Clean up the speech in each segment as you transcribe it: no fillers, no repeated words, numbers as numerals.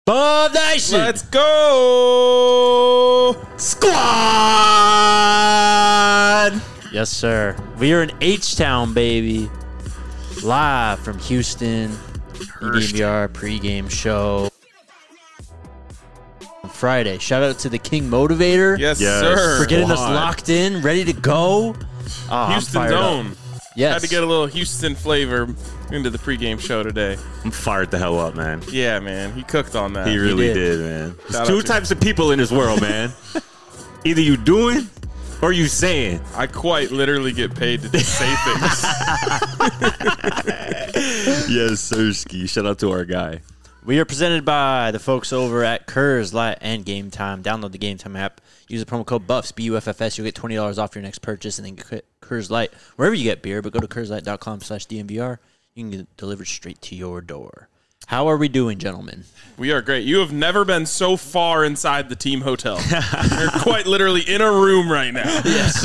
Bob Nation! Let's go! Squad! Yes, sir. We are in H-Town, baby. Live from Houston. EDMBR pregame show. Friday. Shout out to the King Motivator. Yes, sir. For getting us locked in, ready to go. Houston's own. Yes. Had to get a little Houston flavor into the pregame show today. I'm fired the hell up, man. Yeah, man. He cooked on that. He really did, man. Shout There's two out to types of people in this world, man. Either you doing or you saying. I quite literally get paid to just say things. Yes, Sirski. Shout out to our guy. We are presented by the folks over at Coors Light and Game Time. Download the Game Time app. Use the promo code BUFFS, BUFFS. You'll get $20 off your next purchase, and then get Coors Light wherever you get beer. But go to CoorsLight.com/DNVR. You can get it delivered straight to your door. How are we doing, gentlemen? We are great. You have never been so far inside the team hotel. You're quite literally in a room right now. Yes.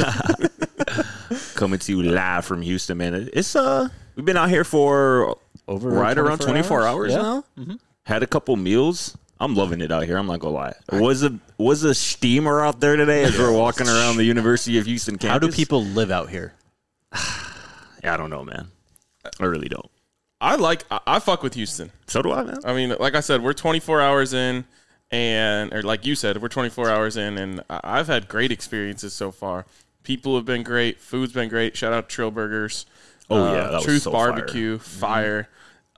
Coming to you live from Houston, man. It's we've been out here for Over right around 24 hours yeah. now. Mm-hmm. Had a couple meals. I'm loving it out here. I'm not gonna lie. Was a steamer out there today as we're walking around the University of Houston campus. How do people live out here? Yeah, I don't know, man. I really don't. I fuck with Houston. So do I, man. I mean, like I said, we're 24 hours in, or like you said, we're 24 hours in, and I've had great experiences so far. People have been great. Food's been great. Shout out to Trill Burgers. Oh, yeah. That was Truth so Barbecue. Fire.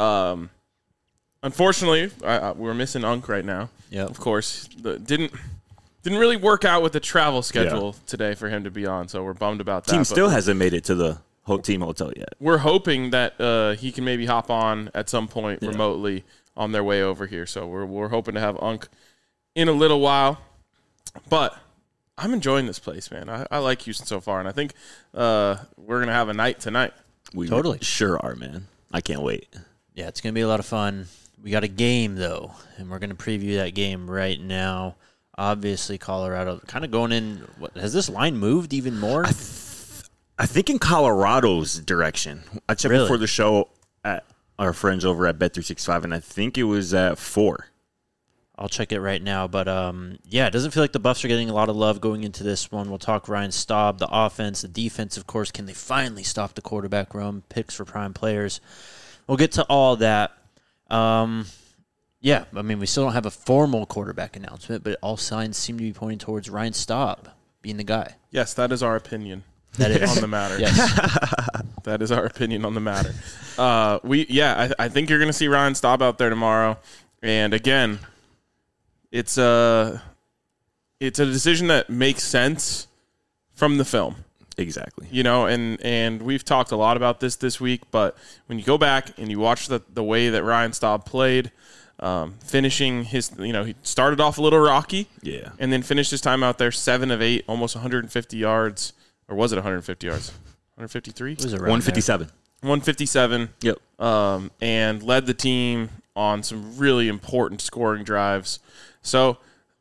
Unfortunately, we're missing Unk right now. Yeah. Of course. Didn't really work out with the travel schedule today for him to be on, so we're bummed about that. Team still hasn't made it to the team hotel yet. We're hoping that he can maybe hop on at some point remotely on their way over here. So we're hoping to have Unk in a little while. But I'm enjoying this place, man. I like Houston so far, and I think we're going to have a night tonight. We Totally. sure are, man. I can't wait. Yeah, it's going to be a lot of fun. We got a game, though, and we're going to preview that game right now. Obviously, Colorado kind of going in. Has this line moved even more? I think in Colorado's direction. I checked before the show at our friends over at Bet365, and I think it was at 4. I'll check it right now. But, yeah, it doesn't feel like the Buffs are getting a lot of love going into this one. We'll talk Ryan Staub, the offense, the defense, of course. Can they finally stop the quarterback room? Picks for prime players. We'll get to all that. Yeah, I mean, we still don't have a formal quarterback announcement, but all signs seem to be pointing towards Ryan Staub being the guy. Yes, that is our opinion. That is on the matter. Yes. That is our opinion on the matter. I think you're going to see Ryan Staub out there tomorrow. And again, it's a decision that makes sense from the film. Exactly. You know, and we've talked a lot about this week, but when you go back and you watch the way that Ryan Staub played, finishing his, he started off a little rocky. Yeah. And then finished his time out there 7 of 8, almost 150 yards. Or was it 150 yards? 153? It was around 157. 157. Yep. And led the team on some really important scoring drives. So,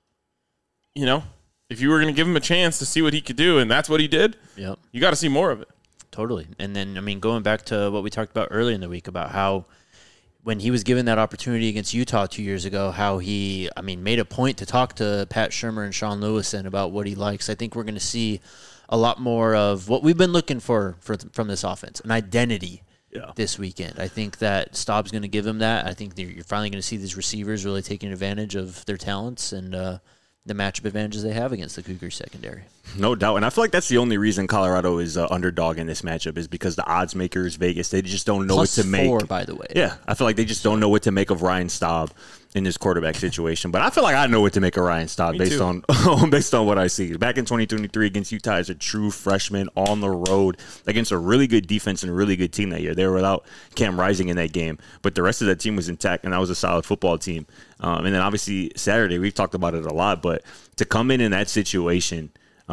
if you were going to give him a chance to see what he could do, and that's what he did, Yep. you got to see more of it. Totally. And then, I mean, going back to what we talked about earlier in the week about how when he was given that opportunity against Utah 2 years ago, how he, made a point to talk to Pat Shurmur and Sean Lewison about what he likes. I think we're going to see a lot more of what we've been looking for from this offense, an identity this weekend. I think that Staub's going to give him that. I think you're finally going to see these receivers really taking advantage of their talents and the matchup advantages they have against the Cougars secondary. No doubt. And I feel like that's the only reason Colorado is underdog in this matchup is because the odds makers, Vegas, they just don't know what to make. +4, by the way. Yeah, I feel like they just don't know what to make of Ryan Staub in this quarterback situation. But I feel like I know what to make of Ryan Staub based on what I see. Back in 2023 against Utah as a true freshman on the road against a really good defense and a really good team that year. They were without Cam Rising in that game, but the rest of that team was intact, and that was a solid football team. And then obviously Saturday, we've talked about it a lot, but to come in that situation,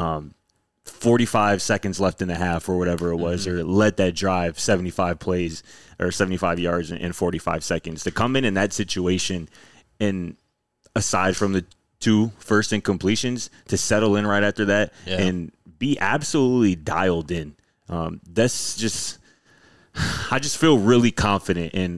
45 seconds left in the half or whatever it was, or led that drive 75 plays or 75 yards in 45 seconds. To come in that situation, and aside from the 2 first incompletions, to settle in right after that and be absolutely dialed in. That's just, I just feel really confident in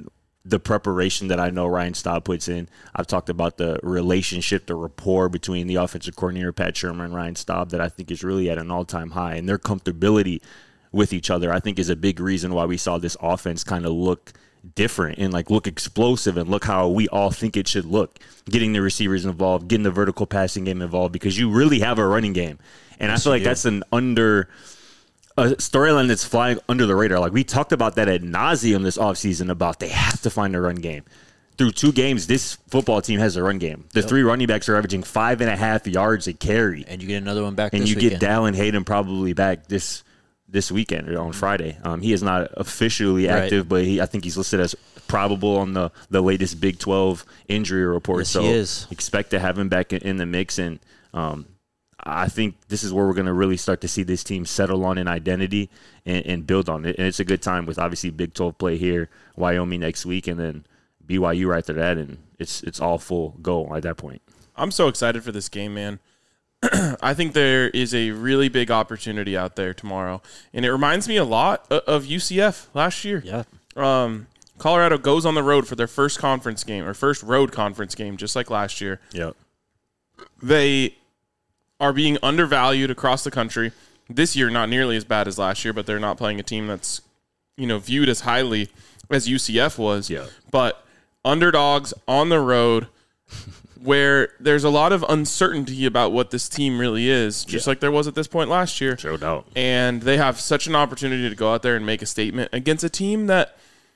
the preparation that I know Ryan Staub puts in. I've talked about the relationship, the rapport between the offensive coordinator, Pat Shurmur, and Ryan Staub that I think is really at an all-time high. And their comfortability with each other, I think, is a big reason why we saw this offense kind of look different and like look explosive and look how we all think it should look. Getting the receivers involved, getting the vertical passing game involved, because you really have a running game. And yes, I feel like that's a storyline that's flying under the radar. Like, we talked about that ad nauseum this offseason about they have to find a run game. Through 2 games, this football team has a run game. The 3 running backs are averaging 5.5 yards a carry. And you get another one back and this you weekend. Get Dallin Hayden probably back this weekend or on Friday. He is not officially active, but I think he's listed as probable on the latest Big 12 injury report. Yes, so he is. Expect to have him back in the mix. And I think this is where we're going to really start to see this team settle on an identity and build on it. And it's a good time with obviously Big 12 play here, Wyoming next week, and then BYU right after that. And it's all full go at that point. I'm so excited for this game, man. I think there is a really big opportunity out there tomorrow. And it reminds me a lot of UCF last year. Yeah. Colorado goes on the road for their first conference game, or first road conference game, just like last year. Yep. They are being undervalued across the country. This year, not nearly as bad as last year, but they're not playing a team that's, viewed as highly as UCF was. Yeah. But underdogs on the road, where there's a lot of uncertainty about what this team really is, just like there was at this point last year. No doubt. And they have such an opportunity to go out there and make a statement against a team that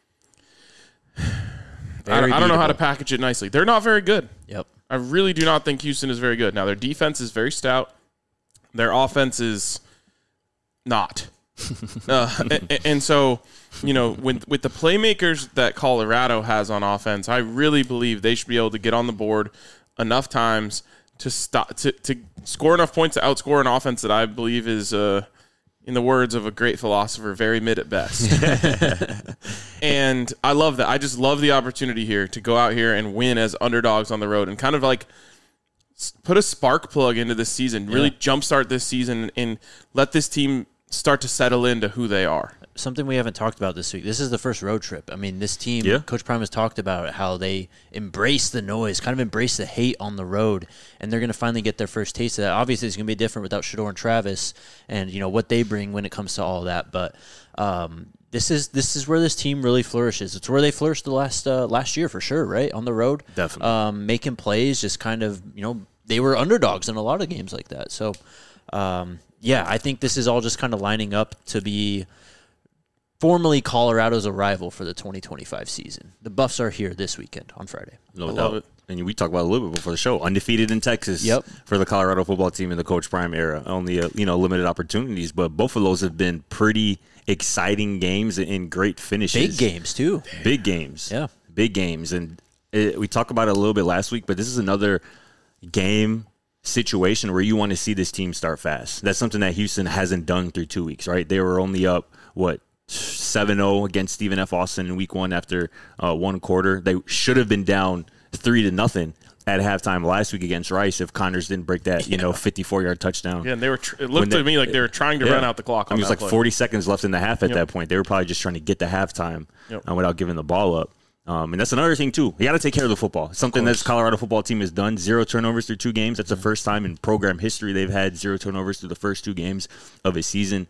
I don't know how to package it nicely. They're not very good. Yep. I really do not think Houston is very good. Now, their defense is very stout. Their offense is not. And so, with the playmakers that Colorado has on offense, I really believe they should be able to get on the board enough times to score enough points to outscore an offense that I believe is, in the words of a great philosopher, very mid at best. And I love that. I just love the opportunity here to go out here and win as underdogs on the road and kind of like put a spark plug into this season, really jumpstart this season and let this team start to settle into who they are. Something we haven't talked about this week. This is the first road trip. I mean, this team, Coach Prime has talked about how they embrace the noise, kind of embrace the hate on the road, and they're going to finally get their first taste of that. Obviously, it's going to be different without Shedeur and Travis and, what they bring when it comes to all that. But this is where this team really flourishes. It's where they flourished the last year for sure, right? On the road. Definitely. Making plays, just kind of, they were underdogs in a lot of games like that. So, I think this is all just kind of lining up to be formally Colorado's arrival for the 2025 season. The Buffs are here this weekend on Friday. No doubt. And we talked about it a little bit before the show. Undefeated in Texas for the Colorado football team in the Coach Prime era. Only limited opportunities, but both of those have been pretty exciting games and great finishes. Big games too. Big games. Yeah. Big games. And we talked about it a little bit last week, but this is another game situation where you want to see this team start fast. That's something that Houston hasn't done through 2 weeks, right? They were only up, 7-0 against Stephen F. Austin in week 1 after 1 quarter. They should have been down 3-0 at halftime last week against Rice if Connors didn't break that, 54-yard touchdown. Yeah, and they were. It looked to me like they were trying to run out the clock. It was like 40 seconds left in the half at that point. They were probably just trying to get to halftime without giving the ball up. And that's another thing, too. You got to take care of the football. Something that this Colorado football team has done. 0 turnovers through 2 games. That's the first time in program history they've had 0 turnovers through the first 2 games of a season.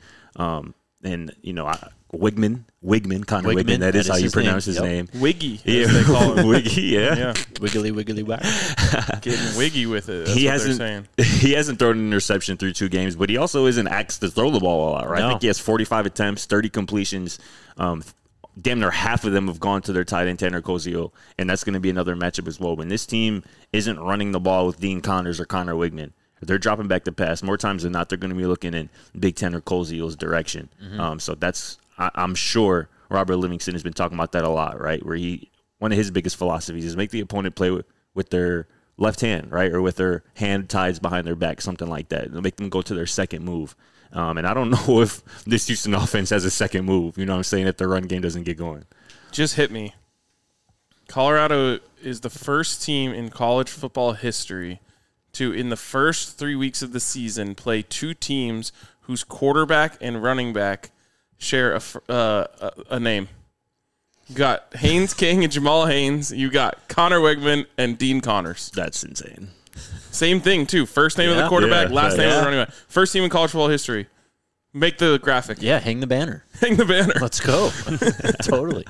Wigman, Connor Wigman. That is how you pronounce his name. Wiggy, as they call him. Wiggy, yeah. Wiggly, wiggly, whack. Getting wiggy with it. That's what they're saying. He hasn't thrown an interception through 2 games, but he also isn't asked to throw the ball a lot, right? No. I think he has 45 attempts, 30 completions. Damn near half of them have gone to their tight end, Tanner Koziel, and that's going to be another matchup as well. When this team isn't running the ball with Dean Connors or Connor Wigman, they're dropping back the pass. More times than not, they're going to be looking in Big Tanner Koziel's direction. So that's, I'm sure Robert Livingston has been talking about that a lot, right? Where one of his biggest philosophies is make the opponent play with their left hand, right? Or with their hand tied behind their back, something like that. They'll make them go to their second move. And I don't know if this Houston offense has a second move, you know what I'm saying, if the run game doesn't get going. Just hit me. Colorado is the first team in college football history to, in the first 3 weeks of the season, play 2 teams whose quarterback and running back share a name. You got Haynes King and Jamal Haynes. You got Connor Wegman and Dean Connors. That's insane. Same thing, too. First name of the quarterback, last name of the running back. First team in college football history. Make the graphic. Yeah, hang the banner. Hang the banner. Let's go. Totally.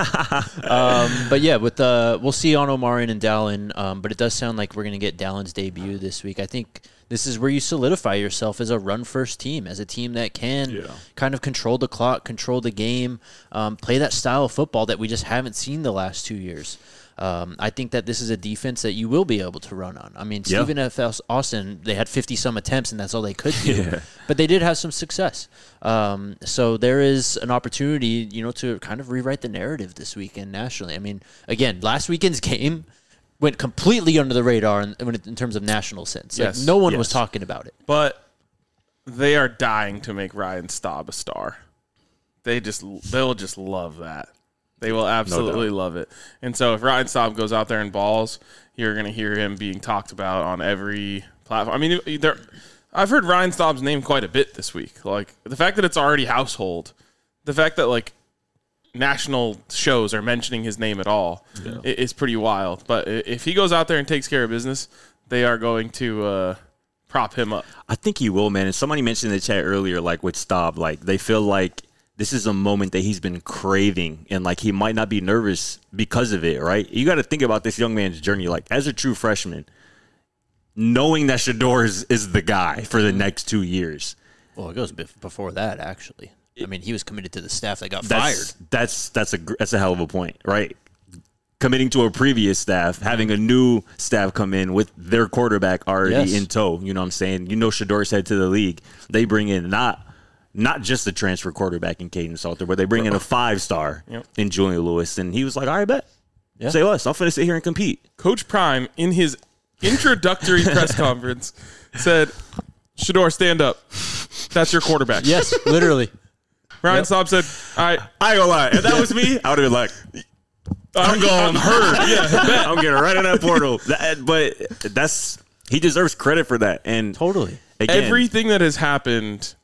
But yeah, with we'll see on Omarion and Dallin, but it does sound like we're going to get Dallin's debut this week. I think this is where you solidify yourself as a run-first team, as a team that can kind of control the clock, control the game, play that style of football that we just haven't seen the last 2 years. I think that this is a defense that you will be able to run on. I mean, Stephen F. Austin, they had 50-some attempts, and that's all they could do. But they did have some success. So there is an opportunity, to kind of rewrite the narrative this weekend nationally. I mean, again, last weekend's game went completely under the radar in terms of national sense. Like, no one was talking about it. But they are dying to make Ryan Staub a star. They'll just love that. They will absolutely love it. And so if Ryan Staub goes out there and balls, you're going to hear him being talked about on every platform. I mean, I've heard Ryan Staub's name quite a bit this week. Like, the fact that it's already household, the fact that, like, national shows are mentioning his name at all is pretty wild. But if he goes out there and takes care of business, they are going to prop him up. I think he will, man. And somebody mentioned in the chat earlier, like, with Staub, like, they feel like this is a moment that he's been craving, and like he might not be nervous because of it, right? You got to think about this young man's journey. Like, as a true freshman, knowing that Shedeur is the guy for the next 2 years. Well, it goes before that, actually. I mean, he was committed to the staff that got fired. That's a hell of a point, right? Committing to a previous staff, having a new staff come in with their quarterback already in tow. You know what I'm saying? Shedeur said to the league, they bring in not just the transfer quarterback in Caden Salter, but they bring in a 5-star in Julian Lewis. And he was like, all right, bet. Yeah. Say less. I'm going to sit here and compete. Coach Prime, in his introductory press conference, said, Shedeur, stand up. That's your quarterback. Yes, literally. Ryan Staub said, all right. I ain't going to lie. If that was me, I would have been like, I'm going hurt. Yeah, I'm getting right in that portal. But he deserves credit for that. And totally. Again, everything that has happened,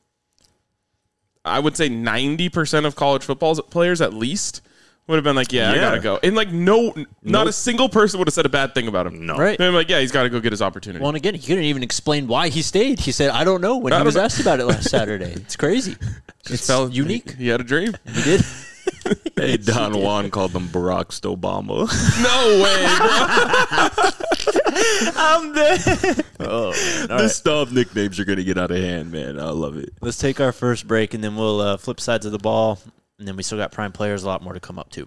I would say 90% of college football players at least would have been like, I got to go. And like, not a single person would have said a bad thing about him. No. Right. They're like, he's got to go get his opportunity. Well, and again, he couldn't even explain why he stayed. He said, I don't know, when he was asked about it last Saturday. It's crazy. It's unique. He had a dream. He did. Hey, Don Juan called them Barack Obama. No way, bro. I'm dead. The Staub nicknames are going to get out of hand, man. I love it. Let's take our first break, and then we'll flip sides of the ball, and then we still got prime players, a lot more to come up, too.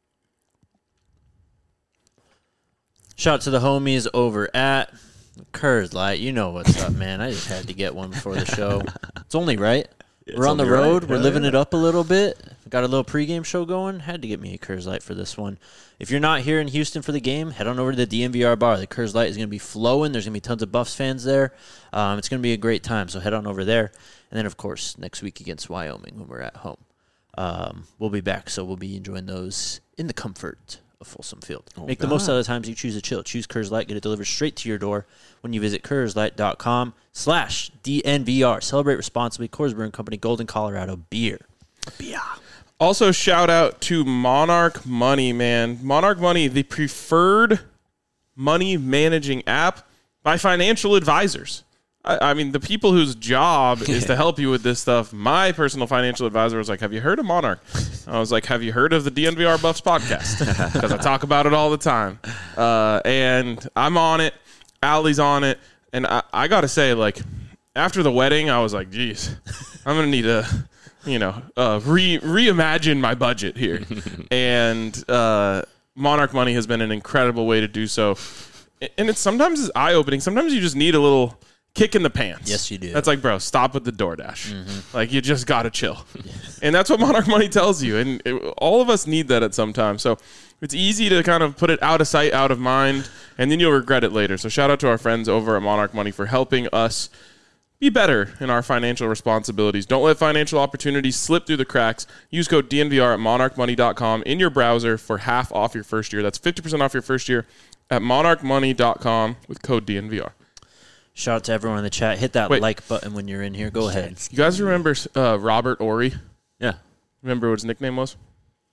Shout out to the homies over at Coors Light. You know what's up, man. I just had to get one before the show. It's only right. We're on the road. We're living it up a little bit. Got a little pregame show going. Had to get me a Coors Light for this one. If you're not here in Houston for the game, head on over to the DNVR bar. The Coors Light is going to be flowing. There's going to be tons of Buffs fans there. It's going to be a great time, so head on over there. And then, of course, next week against Wyoming when we're at home. We'll be back, so we'll be enjoying those in the comfort of Folsom Field. Make the most out of the times you choose to chill. Choose Coors Light. Get it delivered straight to your door when you visit CoorsLight.com/DNVR. Celebrate responsibly. Coors Brewing Company, Golden, Colorado. Beer. Also, shout out to Monarch Money, man. Monarch Money, the preferred money managing app by financial advisors. I mean, the people whose job is to help you with this stuff. My personal financial advisor was like, have you heard of Monarch? I was like, have you heard of the DNVR Buffs podcast? Because I talk about it all the time. And I'm on it. Allie's on it. And I got to say, like, after the wedding, I was like, geez, I'm going to need to, reimagine my budget here. And Monarch Money has been an incredible way to do so. And sometimes it's eye-opening. Sometimes you just need a little kick in the pants. Yes, you do. That's like, bro, stop with the DoorDash. Mm-hmm. Like, you just got to chill. And that's what Monarch Money tells you. And all of us need that at some time. So it's easy to kind of put it out of sight, out of mind, and then you'll regret it later. So shout out to our friends over at Monarch Money for helping us be better in our financial responsibilities. Don't let financial opportunities slip through the cracks. Use code DNVR at monarchmoney.com in your browser for half off your first year. That's 50% off your first year at monarchmoney.com with code DNVR. Shout out to everyone in the chat. Hit that like button when you're in here. Go ahead. You guys remember Robert Ory? Yeah. Remember what his nickname was?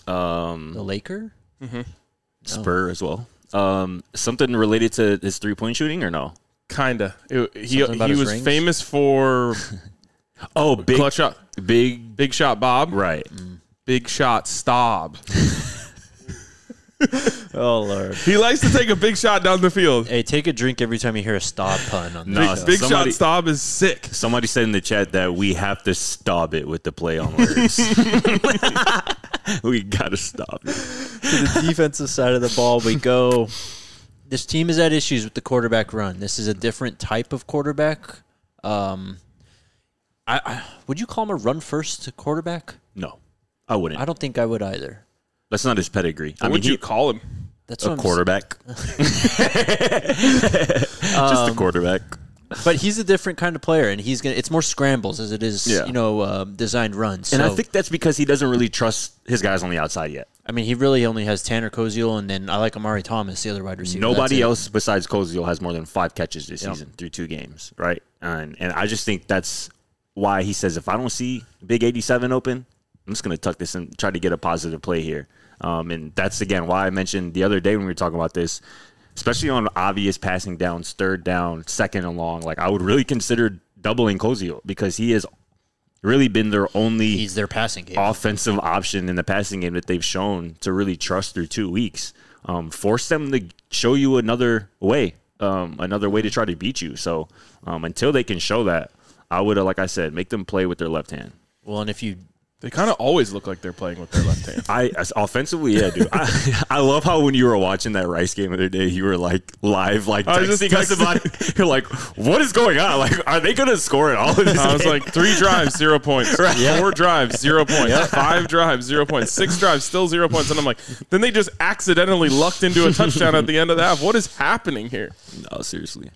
The Laker? Spur as well. Something related to his 3-point shooting or no? Kinda. He about his was rings? famous for Big clutch shot. big Big shot Bob. right. Big shot Staub. Oh, Lord. He likes to take a big shot down the field. Hey, take a drink every time you hear a stop pun on No, this. Big somebody- shot Staub is sick. Somebody said in the chat that we have to stop it with the play on words. We gotta stop it. To the defensive side of the ball we go. This team has had issues with the quarterback run. This is a different type of quarterback. Would you call him a run-first quarterback? No, I wouldn't. I don't think I would either. That's not his pedigree. What would you call him? That's a what I'm quarterback. Just a quarterback. But he's a different kind of player, and it's more scrambles as it is, designed runs. And I So, think that's because he doesn't really trust his guys on the outside yet. I mean, he really only has Tanner Koziel, and then I like Amari Thomas, the other wide receiver. Nobody That's it. else besides Koziel has more than 5 catches this season through 2 games, right? And I just think that's why he says, if I don't see Big 87 open, I'm just going to tuck this and try to get a positive play here. And that's, again, why I mentioned the other day when we were talking about this, especially on obvious passing downs, 3rd down, 2nd and long. Like, I would really consider doubling Koziel because he has really been their only He's their passing game. offensive option in the passing game that they've shown to really trust through 2 weeks. Force them to show you another way to try to beat you. So until they can show that, I would, like I said, make them play with their left hand. Well, and if you They kind of always look like they're playing with their left hand. Offensively, yeah, dude. I love how when you were watching that Rice game the other day, you were like live, like I was just texting us about it. You're like, what is going on? Like, are they going to score at all in this I was game? like 3 drives, 0 points. 4 drives, 0 points. 5 drives, 0 points. 6 drives, still 0 points. And I'm like, then they just accidentally lucked into a touchdown at the end of the half. What is happening here? No, seriously.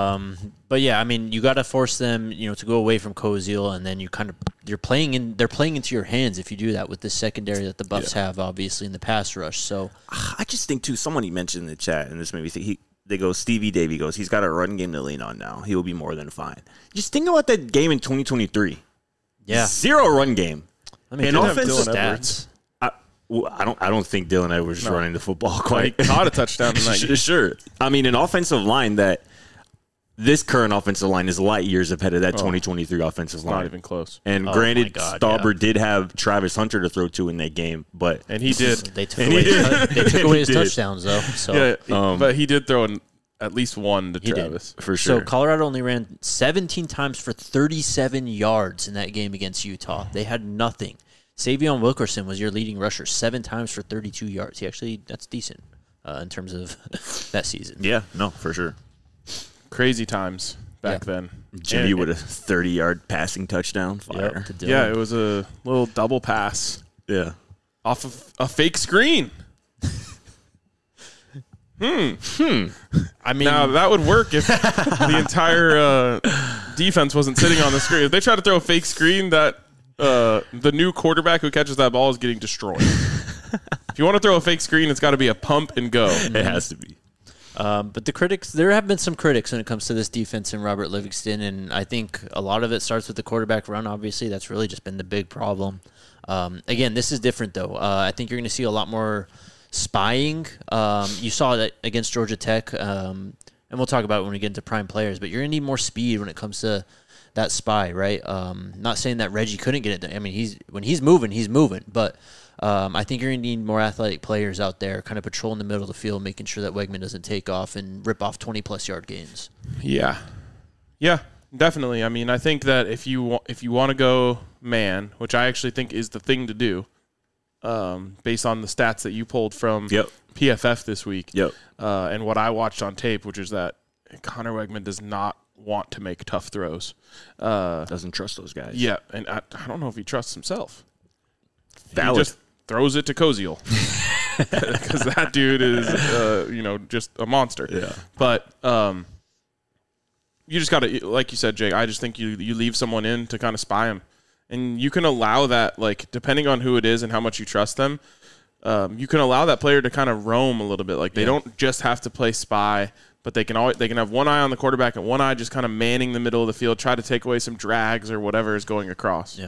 But yeah, I mean, you got to force them, to go away from Koziel, and then they're playing into your hands if you do that with the secondary that the Buffs have, obviously in the pass rush. So I just think too. Somebody mentioned in the chat, and this made me think. Stevie Davey goes, he's got a run game to lean on now. He will be more than fine. Just think about that game in 2023. yeah, 0 run game. let me And pull up offensive the Edwards. stats. I don't think Dylan Edwards is running the football He quite. caught a touchdown tonight. Sure. I mean, an offensive line that this current offensive line is light years ahead of that 2023 offensive line. Not even close. And my granted, God, Stauber did have Travis Hunter to throw to in that game, but And he did. They took away his touchdowns though. So But he did throw at least one to did. Travis. for sure. So Colorado only ran 17 times for 37 yards in that game against Utah. They had nothing. Savion Wilkerson was your leading rusher, 7 times for 32 yards. That's decent in terms of that season. yeah, no, for sure. Crazy times back then. Jimmy And- with a 30-yard passing touchdown. Fire. To Dylan. Yeah, it was a little double pass Yeah. off of a fake screen. I mean, Now, that would work if the entire defense wasn't sitting on the screen. If they try to throw a fake screen, that the new quarterback who catches that ball is getting destroyed. If you want to throw a fake screen, it's got to be a pump and go. It has to be. but the critics, there have been some critics when it comes to this defense and Robert Livingston, and I think a lot of it starts with the quarterback run, obviously. That's really just been the big problem. Again, this is different, though. I think you're going to see a lot more spying. You saw that against Georgia Tech, and we'll talk about it when we get into prime players, but you're going to need more speed when it comes to that spy, right? Not saying that Reggie couldn't get it done. I mean, when he's moving, but I think you're going to need more athletic players out there kind of patrolling the middle of the field, making sure that Wegman doesn't take off and rip off 20-plus yard gains. Yeah, definitely. I mean, I think that if you want to go man, which I actually think is the thing to do, based on the stats that you pulled from PFF this week, and what I watched on tape, which is that Connor Wegman does not want to make tough throws. Doesn't trust those guys. Yeah, and I don't know if he trusts himself. Valid. He just throws it to Koziel because that dude is, just a monster. Yeah. But you just got to, like you said, Jake, I just think you leave someone in to kind of spy him. And you can allow that, like, depending on who it is and how much you trust them, you can allow that player to kind of roam a little bit. Like, they don't just have to play spy, but they can have one eye on the quarterback and one eye just kind of manning the middle of the field, try to take away some drags or whatever is going across. Yep.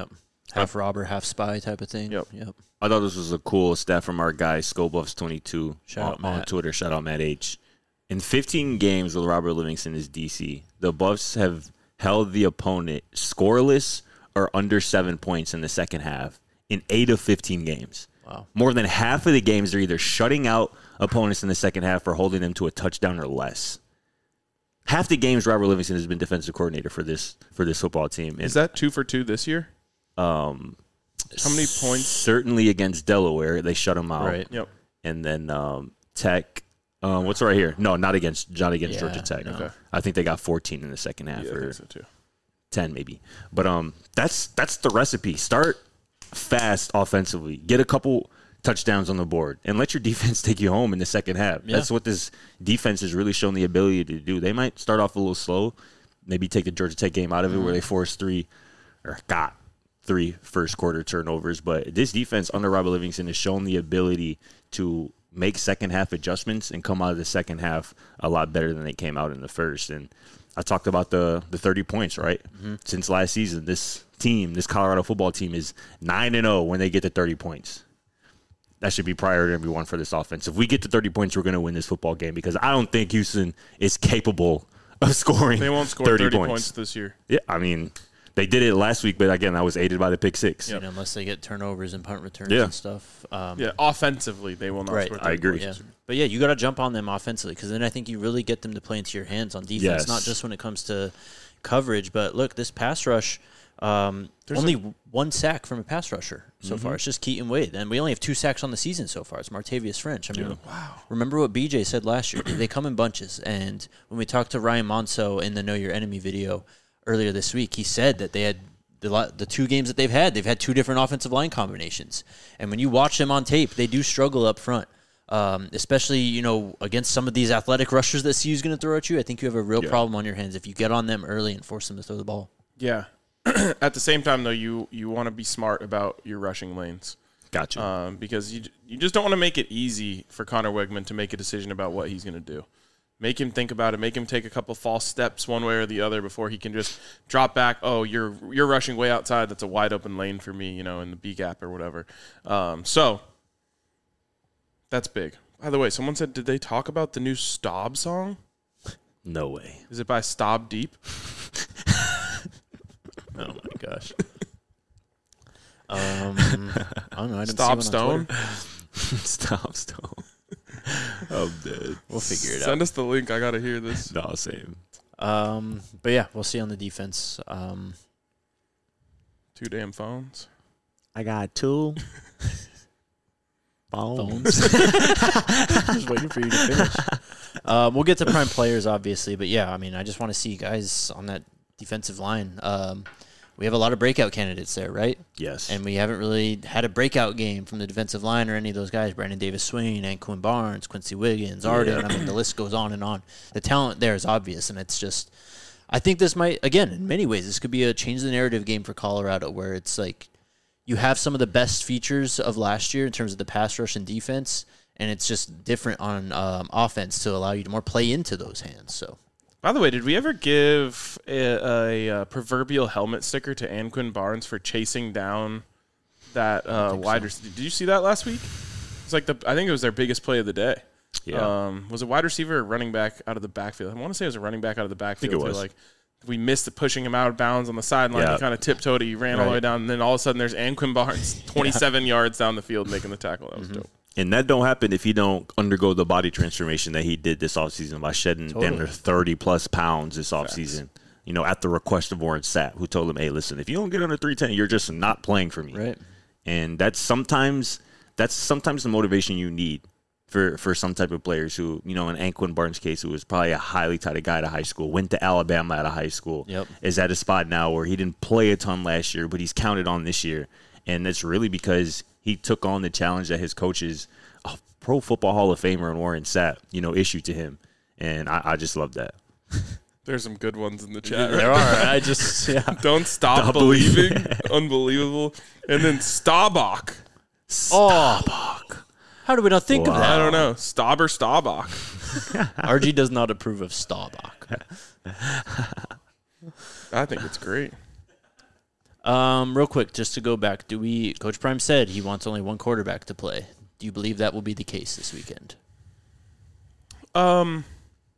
half robber, half spy type of thing. Yep. I thought this was a cool stat from our guy, Scobuffs22 on Twitter. Shout out Matt H. In 15 games with Robert Livingston as DC, the Buffs have held the opponent scoreless or under 7 points in the second half in 8 of 15 games. Wow. More than half of the games are either shutting out opponents in the second half or holding them to a touchdown or less. Half the games Robert Livingston has been defensive coordinator for this football team. And, is that 2 for 2 this year? How many points? Certainly against Delaware, they shut them out. Right. Yep. And then Tech. What's right here? No, not against Georgia Tech. No. Okay. I think they got 14 in the second half, Yeah, I or think so too. 10 maybe. But that's the recipe. Start fast offensively. Get a couple touchdowns on the board and let your defense take you home in the second half. Yeah. That's what this defense has really shown the ability to do. They might start off a little slow, maybe take the Georgia Tech game out of it where they forced 3 first quarter turnovers. But this defense under Robert Livingston has shown the ability to make second half adjustments and come out of the second half a lot better than they came out in the first. And I talked about the 30 points, right? Mm-hmm. Since last season, this Colorado football team is 9-0 when they get to 30 points. That should be priority number one for this offense. If we get to 30 points, we're going to win this football game because I don't think Houston is capable of scoring. They won't score 30 points this year. Yeah, I mean, they did it last week, but again, I was aided by the pick six. Yep. Unless they get turnovers and punt returns and stuff. Offensively, they will not score 30 I agree. points. Yeah. But yeah, you got to jump on them offensively because then I think you really get them to play into your hands on defense, not just when it comes to coverage. But look, this pass rush, only one sack from a pass rusher so far. It's just Keaton Wade. And we only have 2 sacks on the season so far. It's Martavius French. I mean, remember what BJ said last year. They come in bunches. And when we talked to Ryan Monso in the Know Your Enemy video earlier this week, he said that they had the 2 games that they've had 2 different offensive line combinations. And when you watch them on tape, they do struggle up front. Especially, against some of these athletic rushers that CU's going to throw at you. I think you have a real problem on your hands if you get on them early and force them to throw the ball. Yeah. At the same time, though, you want to be smart about your rushing lanes. Gotcha. Because you just don't want to make it easy for Connor Wegman to make a decision about what he's going to do. Make him think about it. Make him take a couple false steps one way or the other before he can just drop back. Oh, you're rushing way outside. That's a wide open lane for me, in the B gap or whatever. So that's big. By the way, someone said, did they talk about the new Staub song? No way. Is it by Staub Deep? Oh my gosh. I don't know. I didn't Stop see Stone. Stop Stone. I'm dead. We'll figure it out. Send us the link. I gotta hear this. No, same. But yeah, we'll see on the defense. 2 damn phones. I got 2 phones. Just waiting for you to finish. We'll get to prime players, obviously, but yeah, I mean, I just want to see guys on that defensive line. We have a lot of breakout candidates there, right? Yes. And we haven't really had a breakout game from the defensive line or any of those guys. Brandon Davis-Swain, Anquan Barnes, Quincy Wiggins, Arden. I mean, the list goes on and on. The talent there is obvious, and it's just – I think this might – again, in many ways, this could be a change the narrative game for Colorado where it's like you have some of the best features of last year in terms of the pass rush and defense, and it's just different on offense to allow you to more play into those hands. So. By the way, did we ever give a proverbial helmet sticker to Anquan Barnes for chasing down that wide receiver? Did you see that last week? It's like I think it was their biggest play of the day. Yeah. Was it wide receiver or running back out of the backfield? I want to say it was a running back out of the backfield. I think it was. Like we missed it, pushing him out of bounds on the sideline. Yeah. He kind of tiptoed. He ran all the way down, and then all of a sudden there's Anquan Barnes, 27 yards down the field making the tackle. That was dope. And that don't happen if you don't undergo the body transformation that he did this offseason by shedding damn near 30-plus pounds this offseason. At the request of Warren Sapp, who told him, hey, listen, if you don't get under 310, you're just not playing for me. Right. And that's sometimes the motivation you need for some type of players who, in Anquan Barnes' case, who was probably a highly touted guy out of high school, went to Alabama out of high school, is at a spot now where he didn't play a ton last year, but he's counted on this year. And that's really because he took on the challenge that his coaches, Pro Football Hall of Famer and Warren Sapp, issued to him. And I just love that. There's some good ones in the chat. There are. I just Don't stop believing. Unbelievable. And then Staubach. Staubach. How do we not think of that? I don't know. Staub or Staubach. RG does not approve of Staubach. I think it's great. Real quick, just to go back, Coach Prime said he wants only one quarterback to play. Do you believe that will be the case this weekend? I'll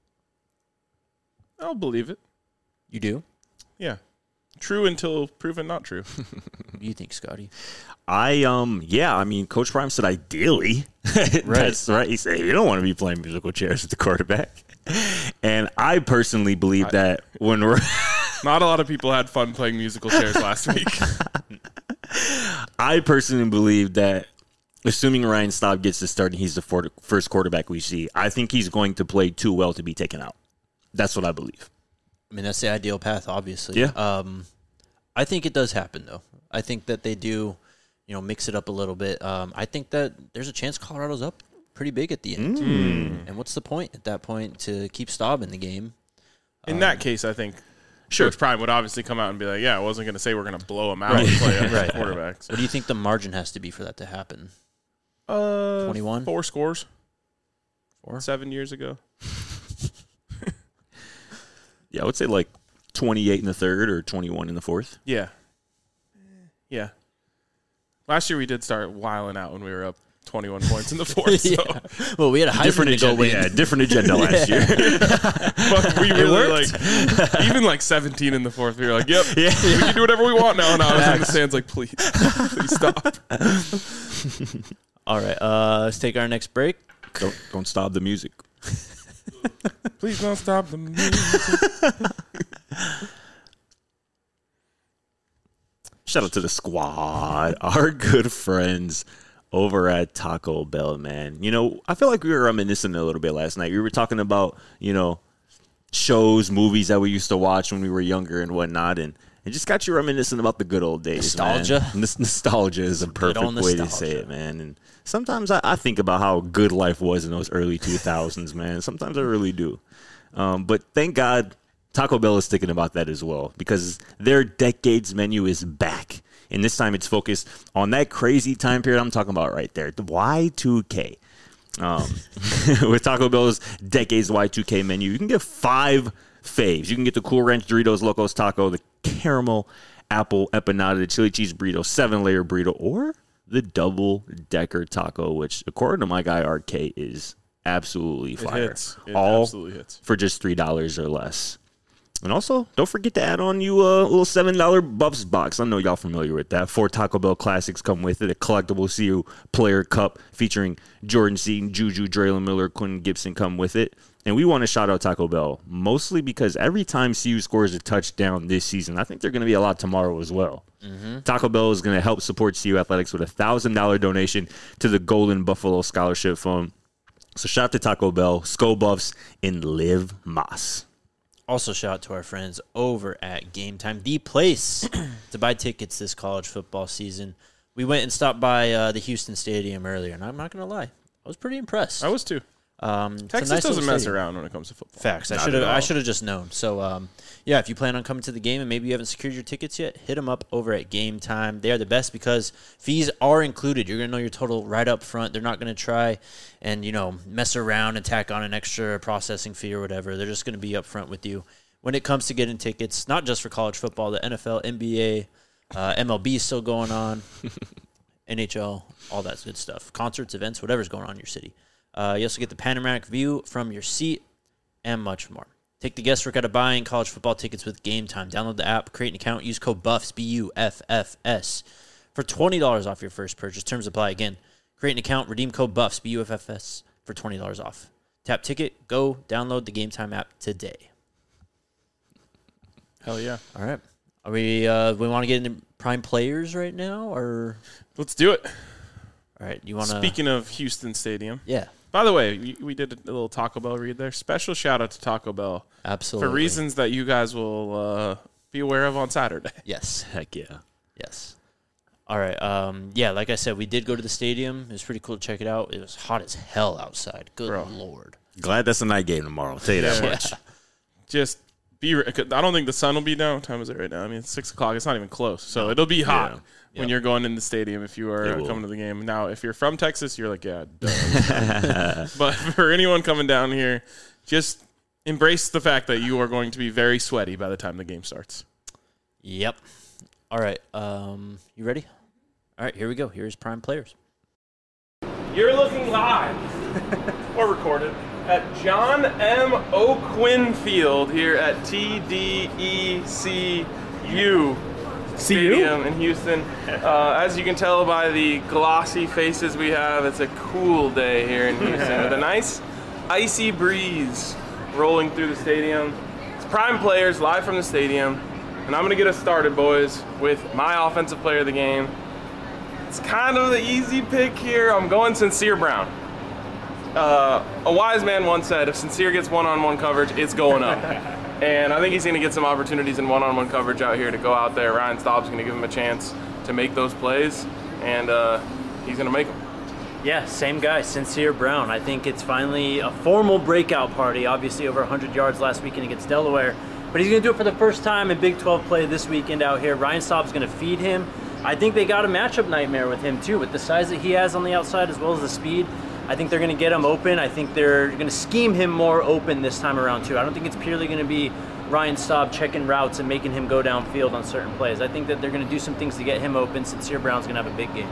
believe it. You do? Yeah. True until proven not true. What do you think, Scotty? I mean, Coach Prime said ideally. That's right. He said you don't want to be playing musical chairs with the quarterback. And I personally believe that when we're not a lot of people had fun playing musical chairs last week. I personally believe that assuming Ryan Staub gets the start and he's the first quarterback we see, I think he's going to play too well to be taken out. That's what I believe. I mean, that's the ideal path, obviously. Yeah. I think it does happen, though. I think that they do, mix it up a little bit. I think that there's a chance Colorado's up pretty big at the end. And what's the point at that point to keep Staub in the game? In that case, I think Coach Prime would obviously come out and be like, yeah, I wasn't going to say we're going to blow him out and play quarterbacks. What do you think the margin has to be for that to happen? 21? 4 scores. 4? 7 years ago. Yeah, I would say like 28 in the third or 21 in the fourth. Yeah. Yeah. Last year we did start wiling out when we were up 21 points in the fourth. So. Well, we had a Heisman to go win. Yeah, different agenda last year. But we really even like 17 in the fourth. We were like, yep, we can do whatever we want now. And I was in the stands like, please stop. All right, let's take our next break. Don't stop the music. Please don't stop the music. Shout out to the squad, our good friends over at Taco Bell, man. I feel like we were reminiscing a little bit last night. We were talking about, shows, movies that we used to watch when we were younger and whatnot, and it just got you reminiscing about the good old days. Nostalgia. Man. Nostalgia is a perfect way to say it, man. And sometimes I think about how good life was in those early 2000s, man. Sometimes I really do. But thank God Taco Bell is thinking about that as well, because their decades menu is back. And this time it's focused on that crazy time period I'm talking about right there, the Y2K. With Taco Bell's Decades Y2K menu, you can get 5 faves. You can get the Cool Ranch Doritos Locos Taco, the Caramel Apple Empanada, the Chili Cheese Burrito, 7-layer burrito, or the Double Decker Taco, which, according to my guy RK, is absolutely fire. It all absolutely hits. For just $3 or less. And also, don't forget to add on you a little $7 Buffs box. I know y'all familiar with that. 4 Taco Bell classics come with it. A collectible CU player cup featuring Jordan Seaton, Juju, Draylon Miller, Quentin Gibson come with it. And we want to shout out Taco Bell, mostly because every time CU scores a touchdown this season, I think they're going to be a lot tomorrow as well. Taco Bell is going to help support CU Athletics with a $1,000 donation to the Golden Buffalo Scholarship Fund. So shout out to Taco Bell, Skull Buffs, and Live Mas. Also, shout out to our friends over at Game Time, the place to buy tickets this college football season. We went and stopped by the Houston Stadium earlier, and I'm not going to lie, I was pretty impressed. I was too. Texas nice doesn't mess around when it comes to football. Facts. I should have just known. So, if you plan on coming to the game and maybe you haven't secured your tickets yet, hit them up over at Game Time. They are the best because fees are included. You're going to know your total right up front. They're not going to try and, mess around and tack on an extra processing fee or whatever. They're just going to be up front with you when it comes to getting tickets, not just for college football, the NFL, NBA, MLB is still going on, NHL, all that good stuff. Concerts, events, whatever's going on in your city. You also get the panoramic view from your seat and much more. Take the guesswork out of buying college football tickets with Game Time. Download the app, create an account, use code BUFFS, BUFFS, for $20 off your first purchase. Terms apply again. Create an account, redeem code BUFFS, BUFFS, for $20 off. Tap ticket, go download the Game Time app today. Hell yeah. All right. Are we want to get into prime players right now, or? Let's do it. All right. You want to? Speaking of Houston Stadium. Yeah. By the way, we did a little Taco Bell read there. Special shout out to Taco Bell. Absolutely. For reasons that you guys will be aware of on Saturday. Yes. Heck yeah. Yes. All right. Like I said, we did go to the stadium. It was pretty cool to check it out. It was hot as hell outside. Good Lord. Glad that's a night game tomorrow. I'll tell you that much. Just I don't think the sun will be down. What time is it right now? I mean, it's 6 o'clock. It's not even close. So it'll be hot when you're going in the stadium if you are coming to the game. Now, if you're from Texas, you're like, yeah, duh. But for anyone coming down here, just embrace the fact that you are going to be very sweaty by the time the game starts. Yep. All right. You ready? All right, here we go. Here's Prime Players. You're looking live or recorded at John M. O'Quinn Field here at TDECU Stadium in Houston. As you can tell by the glossy faces we have, it's a cool day here in Houston with a nice icy breeze rolling through the stadium. It's Prime Players live from the stadium, and I'm going to get us started, boys, with my offensive player of the game. It's kind of the easy pick here. I'm going Sincere Brown. A wise man once said, if Sincere gets one-on-one coverage, it's going up. And I think he's going to get some opportunities in one-on-one coverage out here to go out there. Ryan Staub's going to give him a chance to make those plays, and he's going to make them. Yeah, same guy, Sincere Brown. I think it's finally a formal breakout party, obviously over 100 yards last weekend against Delaware. But he's going to do it for the first time in Big 12 play this weekend out here. Ryan Staub's going to feed him. I think they got a matchup nightmare with him too, with the size that he has on the outside as well as the speed. I think they're going to get him open. I think they're going to scheme him more open this time around too. I don't think it's purely going to be Ryan Staub checking routes and making him go downfield on certain plays. I think that they're going to do some things to get him open. Sincere Brown's going to have a big game.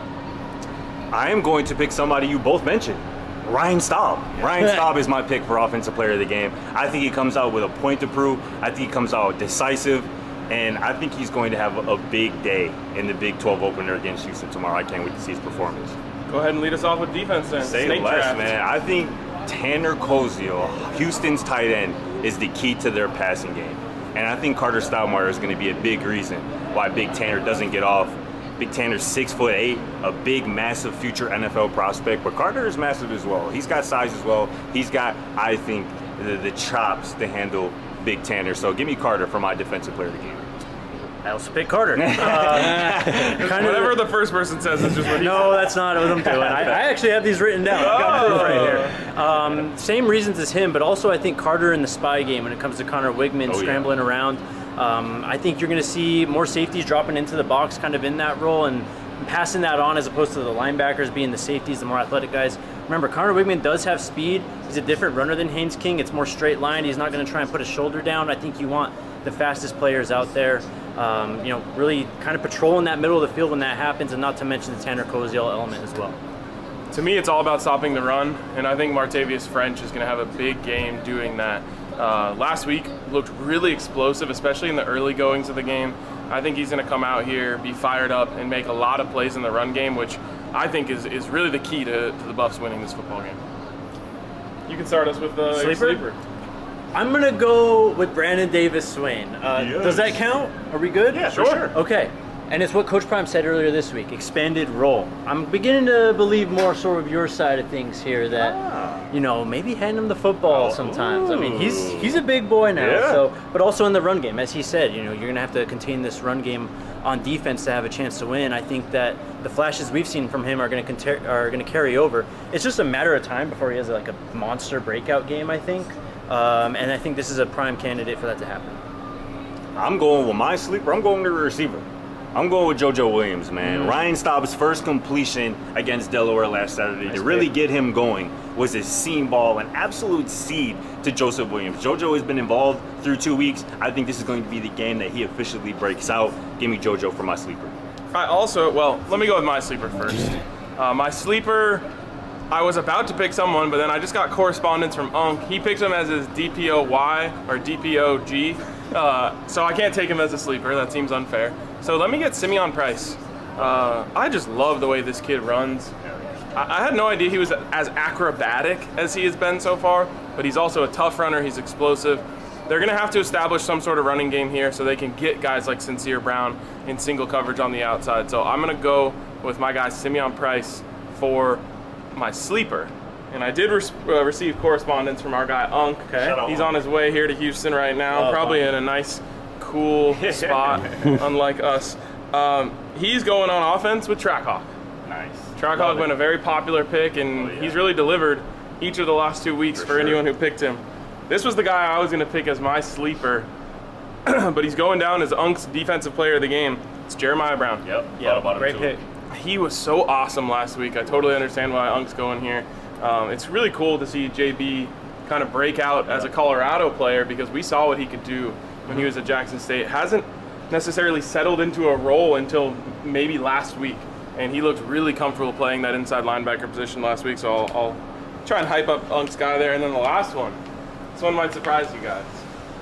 I am going to pick somebody you both mentioned, Ryan Staub. Ryan Staub is my pick for Offensive Player of the Game. I think he comes out with a point to prove. I think he comes out decisive. And I think he's going to have a big day in the Big 12 opener against Houston tomorrow. I can't wait to see his performance. Go ahead and lead us off with defense then. Say less, man. I think Tanner Koziel, Houston's tight end, is the key to their passing game. And I think Carter Stoudemire is going to be a big reason why Big Tanner doesn't get off. Big Tanner's 6'8", a big, massive future NFL prospect. But Carter is massive as well. He's got size as well. He's got, I think, the chops to handle Big Tanner. So give me Carter for my Defensive Player of the Game. I also pick Carter. Whatever the first person says is just what No, that's not what I'm doing. I actually have these written down. I've got proof right here. Same reasons as him, but also I think Carter in the spy game when it comes to Connor Wigman scrambling around. I think you're going to see more safeties dropping into the box kind of in that role and passing that on as opposed to the linebackers being the safeties, the more athletic guys. Remember, Connor Wigman does have speed. He's a different runner than Haynes King. It's more straight line. He's not going to try and put his shoulder down. I think you want the fastest players out there, really kind of patrolling that middle of the field when that happens, and not to mention the Tanner Koziel element as well. To me, it's all about stopping the run, and I think Martavius French is going to have a big game doing that. Last week looked really explosive, especially in the early goings of the game. I think he's going to come out here, be fired up, and make a lot of plays in the run game, which I think is really the key to the Buffs winning this football game. You can start us with the sleeper. I'm going to go with Brandon Davis Swain. Does that count? Are we good? Yeah, sure. Okay. And it's what Coach Prime said earlier this week, expanded role. I'm beginning to believe more sort of your side of things here that, maybe hand him the football sometimes. I mean, he's a big boy now, but also in the run game. As he said, you're going to have to contain this run game on defense to have a chance to win. I think that the flashes we've seen from him are going to carry over. It's just a matter of time before he has like a monster breakout game, I think. And I think this is a prime candidate for that to happen. I'm going with my sleeper. I'm going to the receiver. I'm going with JoJo Williams, man. Ryan Staub's first completion against Delaware last Saturday to really get him going was a seam ball, an absolute seed to Joseph Williams. JoJo has been involved through 2 weeks. I think this is going to be the game that he officially breaks out. Give me JoJo for my sleeper. Let me go with my sleeper first. My sleeper, I was about to pick someone, but then I just got correspondence from Unk. He picked him as his DPOY or DPOG. So I can't take him as a sleeper. That seems unfair. So let me get Simeon Price. I just love the way this kid runs. I had no idea he was as acrobatic as he has been so far, but he's also a tough runner. He's explosive. They're going to have to establish some sort of running game here so they can get guys like Sincere Brown in single coverage on the outside. So I'm going to go with my guy Simeon Price for my sleeper. And I did receive correspondence from our guy Unk. Okay. He's on his way here to Houston right now, probably in a nice, cool spot, unlike us. He's going on offense with Trackhawk. Nice. Trackhawk been a very popular pick, and he's really delivered each of the last 2 weeks for anyone who picked him. This was the guy I was going to pick as my sleeper, but he's going down as Unk's defensive player of the game. It's Jeremiah Brown. Yep. Great pick. He was so awesome last week. I totally understand why Unk's going here. It's really cool to see JB kind of break out as a Colorado player because we saw what he could do when he was at Jackson State. Hasn't necessarily settled into a role until maybe last week. And he looked really comfortable playing that inside linebacker position last week, so I'll try and hype up Unk's guy there. And then the last one, this one might surprise you guys.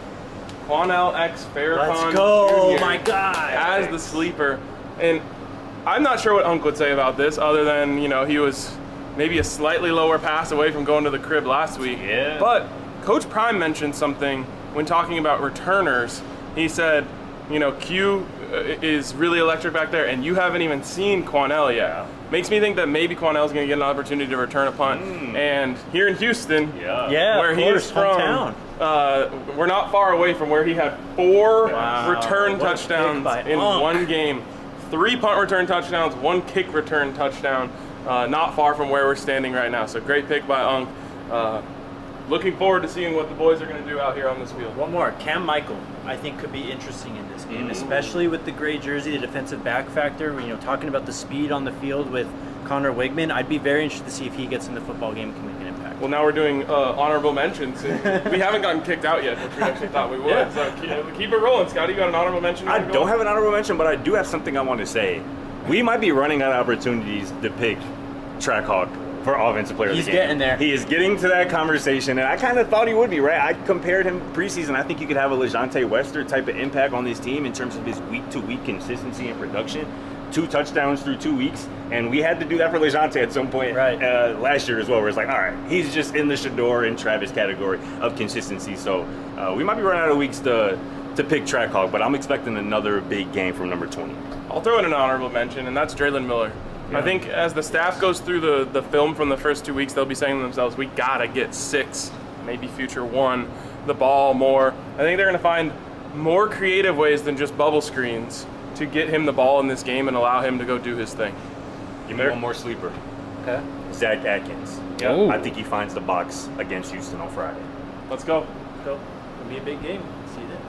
Quanell X Farrakhan Let's go, Jr. my guy. As the sleeper. And I'm not sure what Unk would say about this, other than, you know, he was maybe a slightly lower pass away from going to the crib last week. Yeah. But Coach Prime mentioned something when talking about returners. He said, you know, Q is really electric back there, and you haven't even seen Quanell yet. Makes me think that maybe Quanell's going to get an opportunity to return a punt. And here in Houston, where he is from, we're not far away from where he had 4 return touchdowns in one game. 3 punt return touchdowns, 1 kick return touchdown. Not far from where we're standing right now. So great pick by Unk. Looking forward to seeing what the boys are going to do out here on this field. One more, Cam Michael, I think could be interesting in this game, especially with the gray jersey, the defensive back factor. You know, talking about the speed on the field with Connor Wigman, I'd be very interested to see if he gets in the football game, can make an impact. Well, now we're doing honorable mentions. We haven't gotten kicked out yet, which we actually thought we would. Yeah. So keep it rolling, Scotty. You got an honorable mention? I don't have an honorable mention, but I do have something I want to say. We might be running out of opportunities to pick Trackhawk for offensive player of the game. He's getting there. He is getting to that conversation, and I kind of thought he would be, right? I compared him preseason. I think you could have a LeJontay Wester type of impact on this team in terms of his week-to-week consistency and production. 2 touchdowns through 2 weeks, and we had to do that for LeJontay at some point last year as well, where it's like, all right, he's just in the Shador and Travis category of consistency. So we might be running out of weeks to pick Trackhawk, but I'm expecting another big game from number 20. I'll throw in an honorable mention, and that's Draylen Miller. I think as the staff goes through the film from the first 2 weeks, they'll be saying to themselves, we got to get 6, maybe future 1, the ball more. I think they're going to find more creative ways than just bubble screens to get him the ball in this game and allow him to go do his thing. Give me one more sleeper. Okay. Zach Atkins. Yeah. I think he finds the box against Houston on Friday. Let's go. Let's go. It'll be a big game. See you then.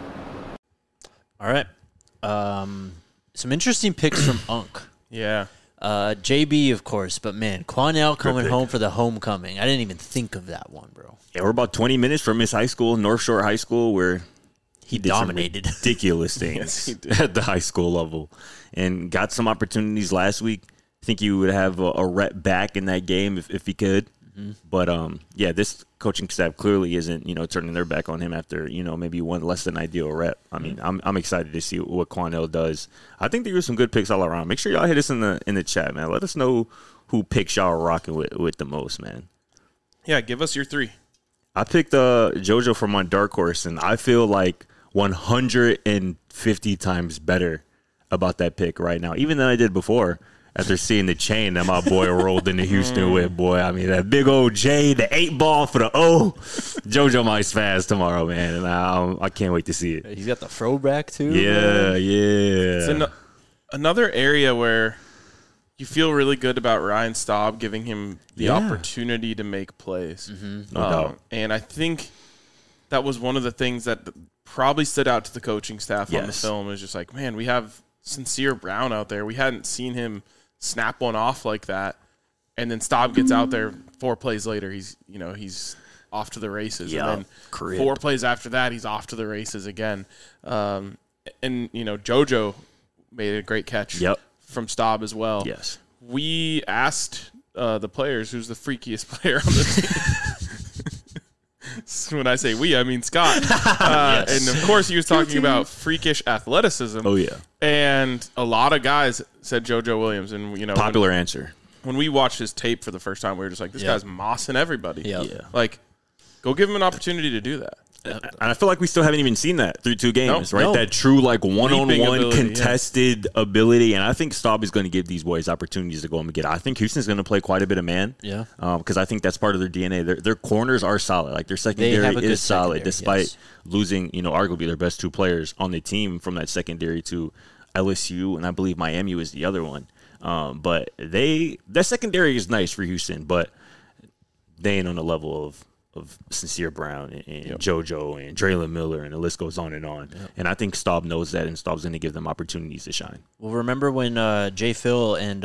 All right. Some interesting picks from Unk. Yeah. JB, of course, but man, Quanell coming home for the homecoming. I didn't even think of that one, bro. Yeah, we're about 20 minutes from his high school, North Shore High School, where he did dominated some ridiculous things Yes, he did. at the high school level and got some opportunities last week. I think he would have a rep back in that game if he could. But yeah, this coaching staff clearly isn't, turning their back on him after, maybe one less than ideal rep. I mean, I'm excited to see what Quanell does. I think there were some good picks all around. Make sure y'all hit us in the chat, man. Let us know who picks y'all are rocking with the most, man. Yeah, give us your 3. I picked JoJo from my dark horse, and I feel like 150 times better about that pick right now, even than I did before. After seeing the chain that my boy rolled into Houston with, boy. I mean, that big old J, the 8 ball for the O. JoJo might spaz tomorrow, man, and I can't wait to see it. He's got the throwback, too. Yeah, man. yeah. It's another area where you feel really good about Ryan Staub giving him the opportunity to make plays. No doubt. And I think that was one of the things that probably stood out to the coaching staff on the film. Is just like, man, we have Sincere Brown out there. We hadn't seen him snap one off like that, and then Staub gets out there 4 plays later. He's off to the races, and then 4 plays after that, he's off to the races again. And JoJo made a great catch from Staub as well. Yes, we asked the players who's the freakiest player on the team. When I say we, I mean Scott. And of course, he was talking about freakish athleticism. Oh yeah, and a lot of guys said JoJo Williams, and popular answer. When we watched his tape for the first time, we were just like, this guy's mossing everybody. Yeah. Like, go give him an opportunity to do that. And I feel like we still haven't even seen that through 2 games, right? No. That true, like, one-on-one ability, contested ability. And I think Staub is going to give these boys opportunities to go and get it. I think Houston's going to play quite a bit of man. Yeah. Because I think that's part of their DNA. Their corners are solid. Like, their secondary is solid, despite losing, arguably their best 2 players on the team from that secondary to LSU, and I believe Miami was the other one. But that secondary is nice for Houston, but they ain't on the level of Sincere Brown and JoJo and Draylen Miller, and the list goes on. Yep. And I think Staub knows that, and Staub's going to give them opportunities to shine. Well, remember when Jay Phil and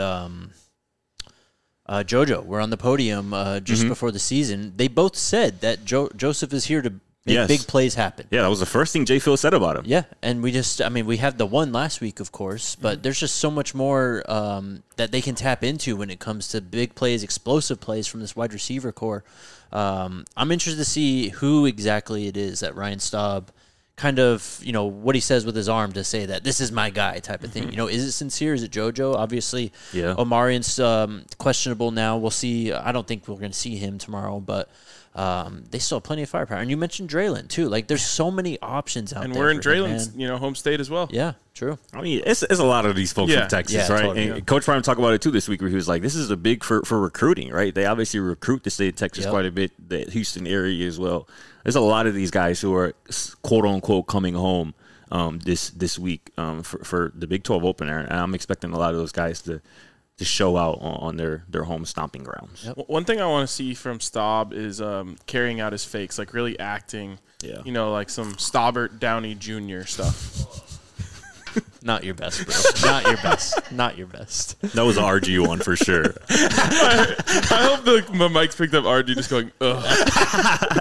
JoJo were on the podium just before the season? They both said that Joseph is here to Big plays happen. Yeah, that was the first thing Jay Phil said about him. Yeah, and we had the one last week, of course, but there's just so much more that they can tap into when it comes to big plays, explosive plays from this wide receiver core. I'm interested to see who exactly it is that Ryan Staub kind of, what he says with his arm to say that this is my guy type of thing. Is it sincere? Is it JoJo? Obviously, Omarion's questionable now. We'll see. I don't think we're going to see him tomorrow, but they still have plenty of firepower. And you mentioned Draylen, too. Like, there's so many options out there. And we're in Draylen's, home state as well. Yeah, true. I mean, it's a lot of these folks from Texas, right? Totally, and Coach Prime talked about it, too, this week, where he was like, this is a big for recruiting, right? They obviously recruit the state of Texas quite a bit, the Houston area as well. There's a lot of these guys who are, quote-unquote, coming home this week for the Big 12 opener, and I'm expecting a lot of those guys to show out on their home stomping grounds. Yep. One thing I want to see from Staub is carrying out his fakes, like really acting, like some Staubert Downey Jr. stuff. Not your best, bro. Not your best. Not your best. That was an RG one for sure. I hope my mic's picked up RG just going, ugh.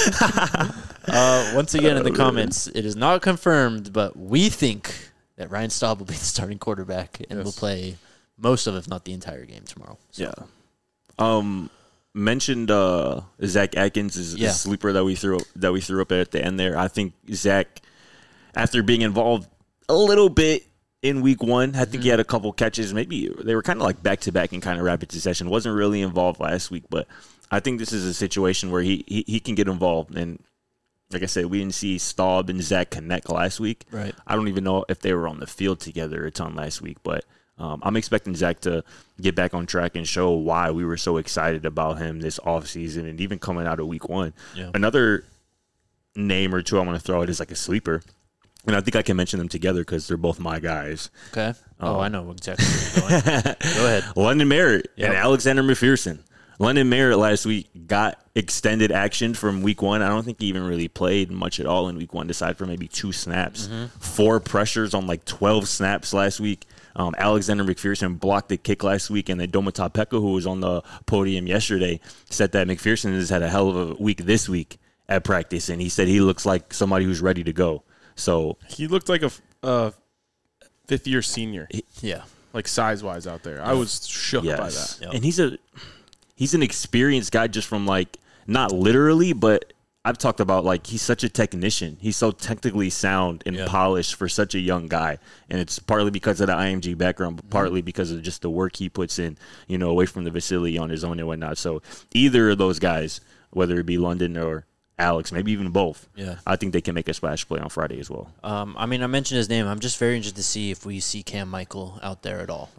Once again, in the comments, it is not confirmed, but we think that Ryan Staub will be the starting quarterback and will play most of, if not the entire game tomorrow. So. Yeah. Mentioned Zach Atkins is a sleeper that we threw up at the end there. I think Zach, after being involved a little bit in week one, I think he had a couple catches. Maybe they were kind of like back-to-back in kind of rapid succession. Wasn't really involved last week, but I think this is a situation where he can get involved. And like I said, we didn't see Staub and Zach connect last week. Right. I don't even know if they were on the field together a ton last week, but I'm expecting Zach to get back on track and show why we were so excited about him this offseason and even coming out of week one. Yeah. Another name or two I want to throw out is like a sleeper. And I think I can mention them together because they're both my guys. Okay. I know exactly where you're going. Go ahead. London Merritt and Alexander McPherson. London Merritt last week got extended action from week one. I don't think he even really played much at all in week one, aside from maybe 2 snaps. 4 pressures on like 12 snaps last week. Alexander McPherson blocked the kick last week, and then Domata Peko, who was on the podium yesterday, said that McPherson has had a hell of a week this week at practice, and he said he looks like somebody who's ready to go. So he looked like a fifth-year senior. Like size-wise out there. I was shook by that. Yep. And he's an experienced guy just from like, not literally, but I've talked about like he's such a technician. He's so technically sound and polished for such a young guy. And it's partly because of the IMG background, but partly because of just the work he puts in, away from the facility on his own and whatnot. So either of those guys, whether it be London or Alex, maybe even both. I think they can make a splash play on Friday as well. I mentioned his name. I'm just very interested to see if we see Cam Michael out there at all.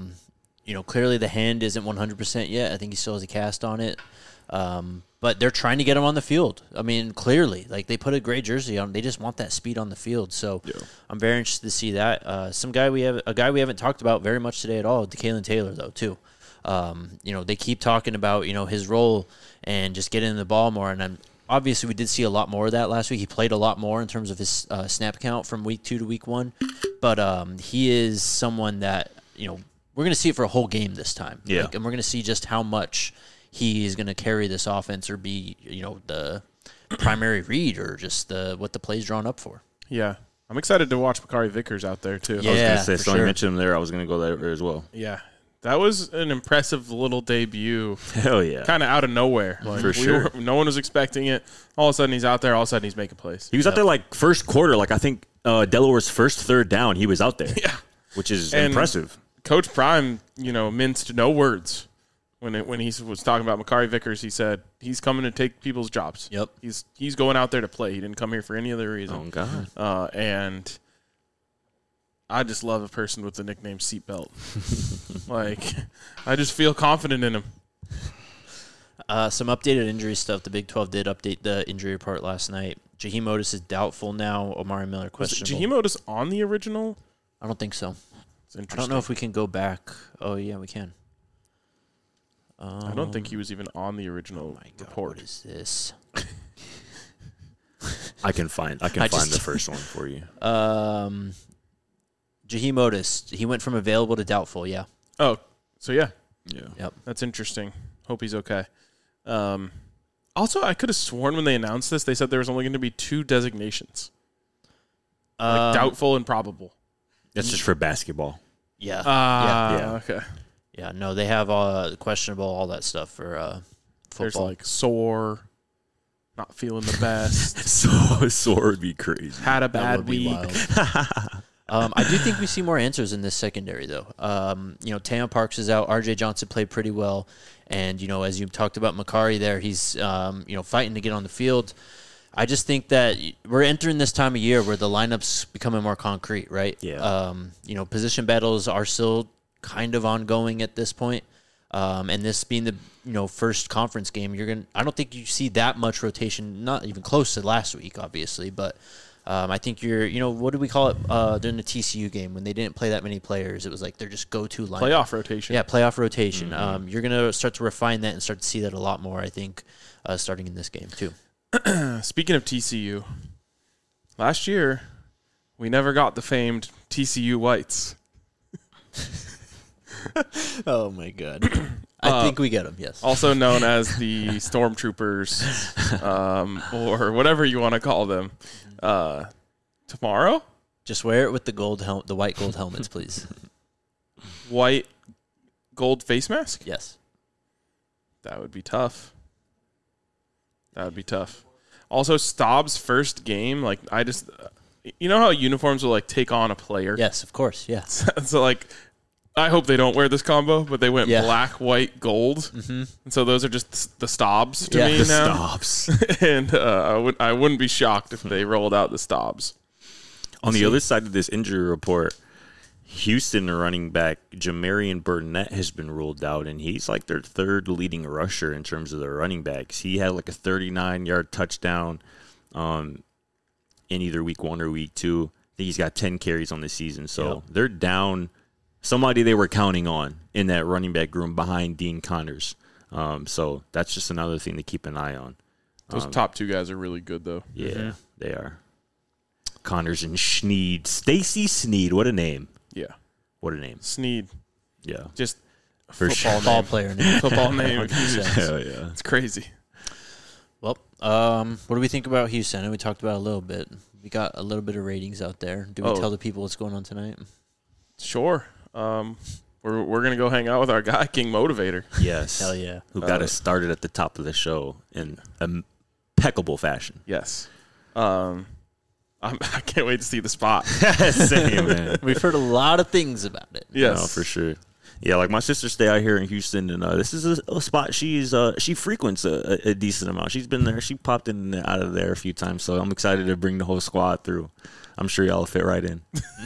Clearly the hand isn't 100% yet. I think he still has a cast on it. But they're trying to get him on the field. I mean, clearly, like they put a gray jersey on. They just want that speed on the field. So I'm very interested to see that. A guy we haven't talked about very much today at all, DeKalen Taylor, though, too. They keep talking about, his role and just getting the ball more. And obviously we did see a lot more of that last week. He played a lot more in terms of his snap count from week 2 to week 1. But he is someone that, we're going to see it for a whole game this time. Yeah. And we're going to see just how much he is going to carry this offense or be, the primary read or just what the play's drawn up for. Yeah. I'm excited to watch Makari Vickers out there, too. I was going to say, so I mentioned him there. I was going to go there as well. Yeah. That was an impressive little debut. Hell yeah. Kind of out of nowhere. Like, for sure. No one was expecting it. All of a sudden, he's out there. All of a sudden, he's making plays. He was out there like first quarter. Like I think Delaware's first third down, he was out there. Yeah. Which is impressive. Coach Prime, minced no words. When he was talking about Makari Vickers, he said he's coming to take people's jobs. Yep. He's going out there to play. He didn't come here for any other reason. Oh, God. And I just love a person with the nickname Seatbelt. I just feel confident in him. Some updated injury stuff. The Big 12 did update the injury report last night. Jaheim Otis is doubtful now. Omari Miller questionable. Was Jaheim Otis on the original? I don't think so. It's interesting. I don't know if we can go back. Oh, yeah, we can. I don't think he was even on the original report. What is this? I can find the first one for you. Jaheim Otis, he went from available to doubtful, yeah. Oh, so yeah. Yeah. Yep. That's interesting. Hope he's okay. I Also, I could have sworn when they announced this, they said there was only going to be 2 designations. Like doubtful and probable. That's just for basketball. Yeah. Yeah. Okay. Yeah, no, they have questionable, all that stuff for football. There's like sore, not feeling the best. Sore would be crazy. Had a That bad would be week. wild. I do think we see more answers in this secondary, though. Tam Parks is out. R.J. Johnson played pretty well. And, as you talked about Makari there, he's, fighting to get on the field. I just think that we're entering this time of year where the lineup's becoming more concrete, right? Yeah. Position battles are still kind of ongoing at this point. And this being the first conference game, I don't think you see that much rotation, not even close to last week, obviously, but I think what do we call it during the TCU game when they didn't play that many players? It was like they're just go-to lineup. Playoff rotation. Yeah, playoff rotation. You're going to start to refine that and start to see that a lot more, I think, starting in this game too. Speaking of TCU, last year we never got the famed TCU whites. Oh my God. I think we get them, yes. Also known as the Stormtroopers, or whatever you want to call them. Tomorrow? Just wear it with the white gold helmets, please. White gold face mask? Yes. That would be tough. Also, Staub's first game, like, you know how uniforms will, like, take on a player? Yes, of course, yeah. So, like, I hope they don't wear this combo, but they went black, white, gold. Mm-hmm. And so those are just the Staubs to me now. Stops. And I wouldn't be shocked if they rolled out the Staubs. On the other side of this injury report, Houston running back Jamarian Burnett has been ruled out, and he's like their third leading rusher in terms of their running backs. He had like a 39-yard touchdown in either week 1 or week 2. I think he's got 10 carries on the season. So they're down somebody they were counting on in that running back room behind Dean Connors. So that's just another thing to keep an eye on. Those top 2 guys are really good, though. Yeah, they are. Connors and Sneed. Stacy Sneed, what a name. Yeah. What a name. Sneed. Yeah. Just Football player name. Football name. Hell yeah. It's crazy. Well, what do we think about Houston? I know we talked about it a little bit. We got a little bit of ratings out there. Do we tell the people what's going on tonight? Sure. We're going to go hang out with our guy, King Motivator. Yes. Hell yeah. Who got us started at the top of the show in impeccable fashion. Yes. I can't wait to see the spot. Same, man. We've heard a lot of things about it. Yes. No, for sure. Yeah, like my sister stay out here in Houston, and this is a spot she frequents a decent amount. She's been there. She popped in and out of there a few times, so I'm excited to bring the whole squad through. I'm sure y'all will fit right in.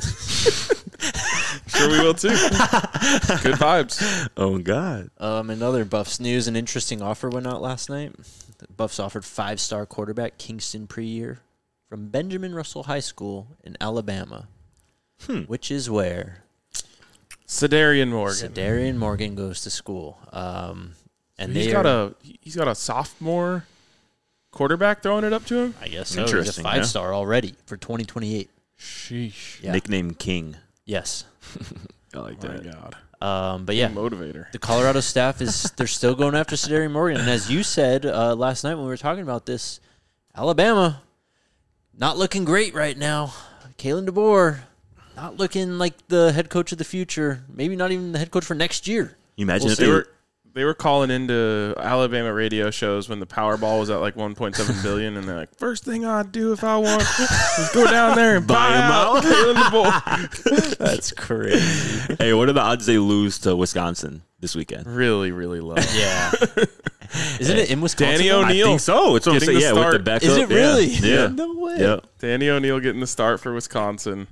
Sure we will, too. Good vibes. Oh, God. In other Buffs news, an interesting offer went out last night. The Buffs offered 5-star quarterback Kingston Preyer from Benjamin Russell High School in Alabama, which is where Sedarian Morgan. Sedarian Morgan goes to school. And he's got a sophomore quarterback throwing it up to him? I guess so. He's a Interesting, 5-star already for 2028. Sheesh. Yeah. Nickname King. Yes. I like Oh, my that. God. But yeah, Motivator. the Colorado staff they're still going after Sedarian Morgan. And as you said last night when we were talking about this, Alabama, not looking great right now. Kalen DeBoer, not looking like the head coach of the future. Maybe not even the head coach for next year. You imagine if They were calling into Alabama radio shows when the Powerball was at like 1.7 billion, and they're like, first thing I'd do if I won is go down there and buy him out. Kalen DeBoer. That's crazy. Hey, what are the odds they lose to Wisconsin this weekend? Really, really low. Yeah. Isn't it in Wisconsin? Danny though? O'Neal. I think so. It's what I'm Getting saying. the Yeah, with start. the backup. Is it really? Yeah. No way. Yeah. Danny O'Neal getting the start for Wisconsin.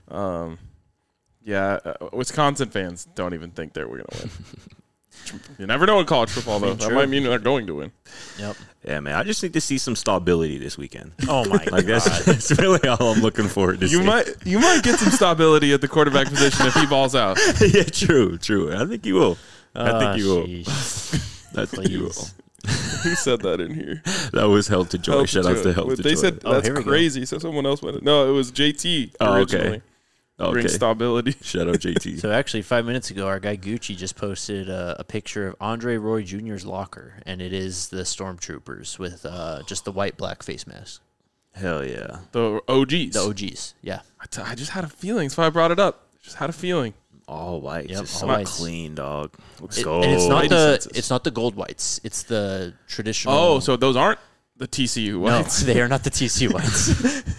Wisconsin fans don't even think they're going to win. You never know in college football, though. That might mean they're going to win. Yep. Yeah, man. I just need to see some stability this weekend. Oh my Like that's really all I'm looking forward to. You might get some stability at the quarterback position if he balls out. Yeah, true. I think you will. I think you will. Jeez. I think you will. Who said that in here? That was Held to Joy. Shout out to Held to Joy. They said that's here we go. crazy. So someone else went. No, it was JT originally. Bring stability. Shout out JT. So actually, 5 minutes ago, our guy Gucci just posted a picture of Andre Roy Jr.'s locker, and it is the Stormtroopers with just the white black face mask. Hell yeah. The OGs. The OGs, yeah. I just had a feeling. That's why I brought it up. Just had a feeling. All white. Yep, Just all so whites. clean, dog. Let's And go. it's not the gold whites. It's the traditional. Oh, so those aren't the TCU whites. No, they are not the TC whites.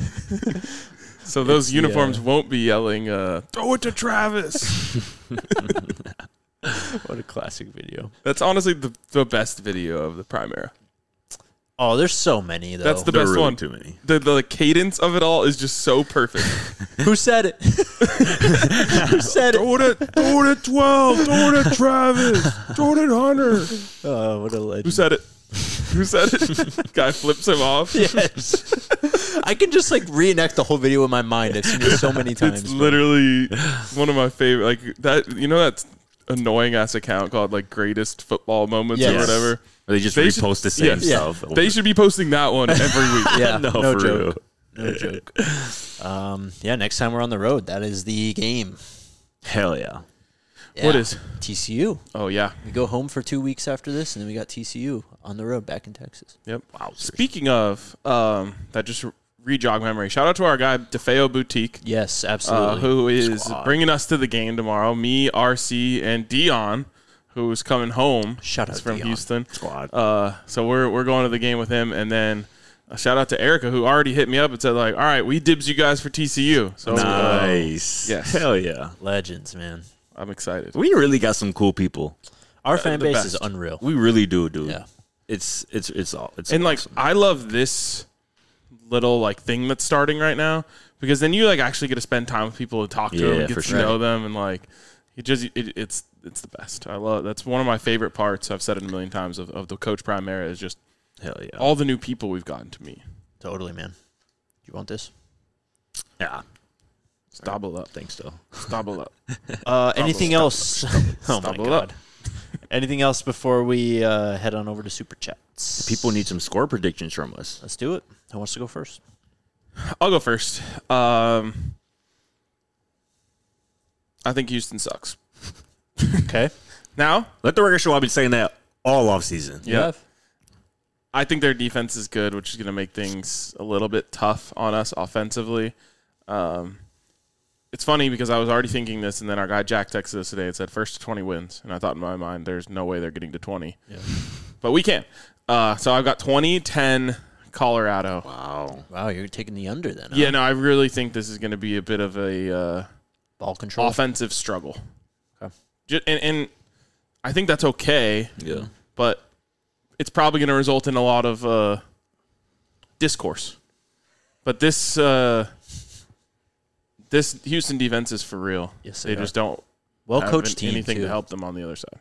So those It's uniforms won't be yelling, throw it to Travis. What a classic video. That's honestly the best video of the Primera. Oh, there's so many, though. That's the There are best really one. too many. The cadence of it all is just so perfect. Who said it? Who said it? Throw it at 12. Throw it at Travis. Throw it at Hunter. Oh, what a legend. Who said it? Who said it? Guy flips him off. Yes. I can just like reenact the whole video in my mind. I've seen it so many times. It's literally one of my favorite. Like that, you know, that annoying ass account called like Greatest Football Moments or Yes. whatever. They just They repost the same yes. stuff. They should be posting that one every week. Yeah, No, no for joke. real. No joke. Yeah, next time we're on the road, that is the game. Hell yeah. Yeah. What is? TCU? Oh yeah. We go home for 2 weeks after this, and then we got TCU on the road back in Texas. Yep. Wow. Speaking of that, just re-jog memory. Shout out to our guy DeFeo Boutique, Yes, absolutely. who is Squad. bringing us to the game tomorrow. Me, RC, and Dion, who's coming home. Shout out He's from Dion. Houston. Squad. So we're going to the game with him, and then a shout out to Erica, who already hit me up and said like, "All right, we dibs you guys for TCU." So Nice. yes. Hell yeah. Legends, man. I'm excited. We really got some cool people. Our fan the base best. is unreal. We really do, dude. Yeah. It's And like, awesome. I love this little like thing that's starting right now, because then you like actually get to spend time with people and talk to them Yeah, and get for to sure. know them, and like it's the best. I love that's one of my favorite parts. I've said it a million times of the Coach Primera is just Hell yeah. all the new people we've gotten to meet. Totally, man. You want this? Yeah. Stobble up. Thanks, though. Stobble up. Anything else? Oh, my Stubble God. up. Anything else before we head on over to Super Chats? People need some score predictions from us. Let's do it. Who wants to go first? I'll go first. I think Houston sucks. Okay. Now, Let the record show I've been saying that all offseason. yeah. I think their defense is good, which is going to make things a little bit tough on us offensively. It's funny because I was already thinking this, and then our guy Jack texted us today and said first to 20 wins. And I thought in my mind, there's no way they're getting to 20. Yeah. But we can. So I've got 20-10 Colorado. Wow, you're taking the under then. Huh? Yeah, no, I really think this is going to be a bit of a Ball control. offensive struggle. Okay. And I think that's okay, Yeah. but it's probably going to result in a lot of discourse. But this Houston defense is for real. Yes, they they just don't Well have coached team anything too. to help them on the other side.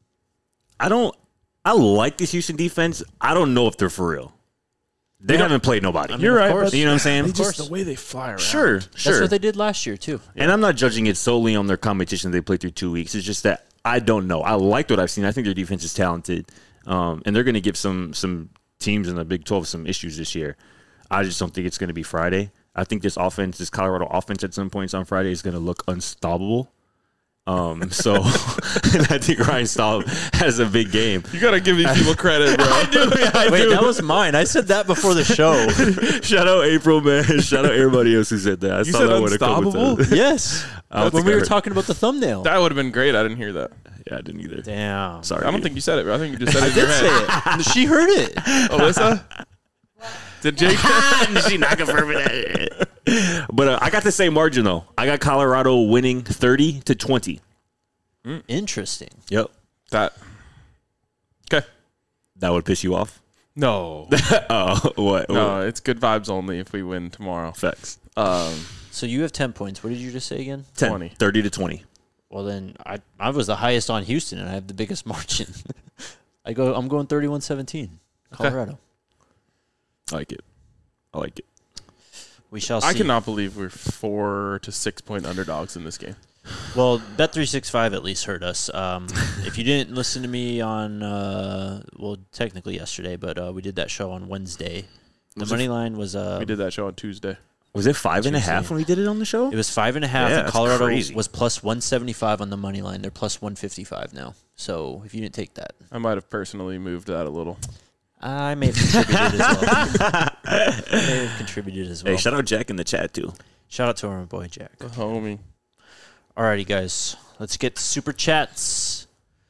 I like this Houston defense. I don't know if they're for real. They haven't played nobody. You're right, but- You know what I'm saying? Of course. Just the way they fly around. Sure. That's what they did last year too. And I'm not judging it solely on their competition they played through 2 weeks. It's just that I don't know. I liked what I've seen. I think their defense is talented. And they're going to give some teams in the Big 12 some issues this year. I just don't think it's going to be Friday. I think this Colorado offense at some points on Friday is going to look unstoppable. And I think Ryan Staub has a big game. You got to give these people credit, bro. Wait, that was mine. I said that before the show. Shout out April, man. Shout out everybody else who said that. I You saw said that one a couple unstoppable? times. Yes. When we were talking about the thumbnail. That would have been great. I didn't hear that. Yeah, I didn't either. Damn. Sorry. I don't think you said it, bro. I think you just said it in your Did head. say it. She heard it. Alyssa? Did Jake? She's not confirming that. But I got the same margin, though. I got Colorado winning 30-20. Interesting. Yep. That. Okay. That would piss you off? No. Oh, what? No, it's good vibes only if we win tomorrow. Facts. So you have 10 points. What did you just say again? 20. 30-20. Well, then I was the highest on Houston, and I have the biggest margin. I'm going 31-17. Colorado. I like it. I like it. We shall see. I cannot believe we're 4 to 6 point underdogs in this game. Well, Bet365 at least heard us. If you didn't listen to me on, technically yesterday, but we did that show on Wednesday. The money line was We did that show on Tuesday. Was it 5.5 when we did it on the show? It was 5.5, Yeah, and that's Colorado crazy. was plus 175 on the money line. They're plus 155 now. So if you didn't take that, I might have personally moved that a little. I may have contributed as well. Hey, shout out Jack in the chat, too. Shout out to our boy Jack. The homie. Alrighty, guys. Let's get to super chats.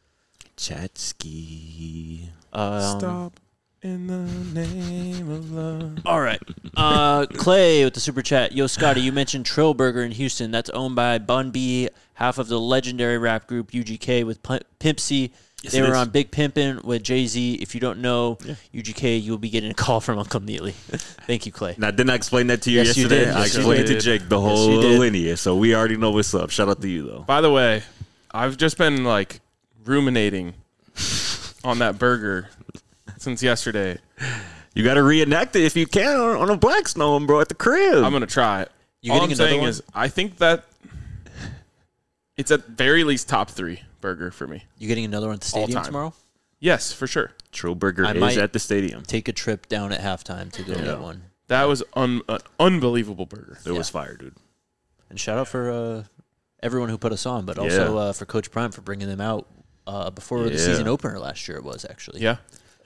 Chatski. Stop in the name of love. All right. Clay with the super chat. Yo, Scotty, you mentioned Trill Burger in Houston. That's owned by Bun B, half of the legendary rap group UGK with Pimp C. Yes, They it were is. on Big Pimpin' with Jay-Z. If you don't know UGK, you'll be getting a call from Uncle immediately. Thank you, Clay. Now, didn't I explain that to you Yes, you yesterday? did. I Yes, you explained to did. Jake the you whole did. lineage, so we already know what's up. Shout out to you, though. By the way, I've just been like ruminating on that burger since yesterday. You got to reenact it if you can on a Black Snow, bro, at the crib. I'm gonna try it. You All getting I'm another saying one? is, I think that it's at very least top 3 burger for me. You getting another one at the stadium time. tomorrow? Yes, for sure. Trill Burger I is might- at the stadium. Take a trip down at halftime to go get one. That was an unbelievable burger. It was fire, dude. And shout out for everyone who put us on, but also for Coach Prime for bringing them out before the season opener last year. It was actually. Yeah.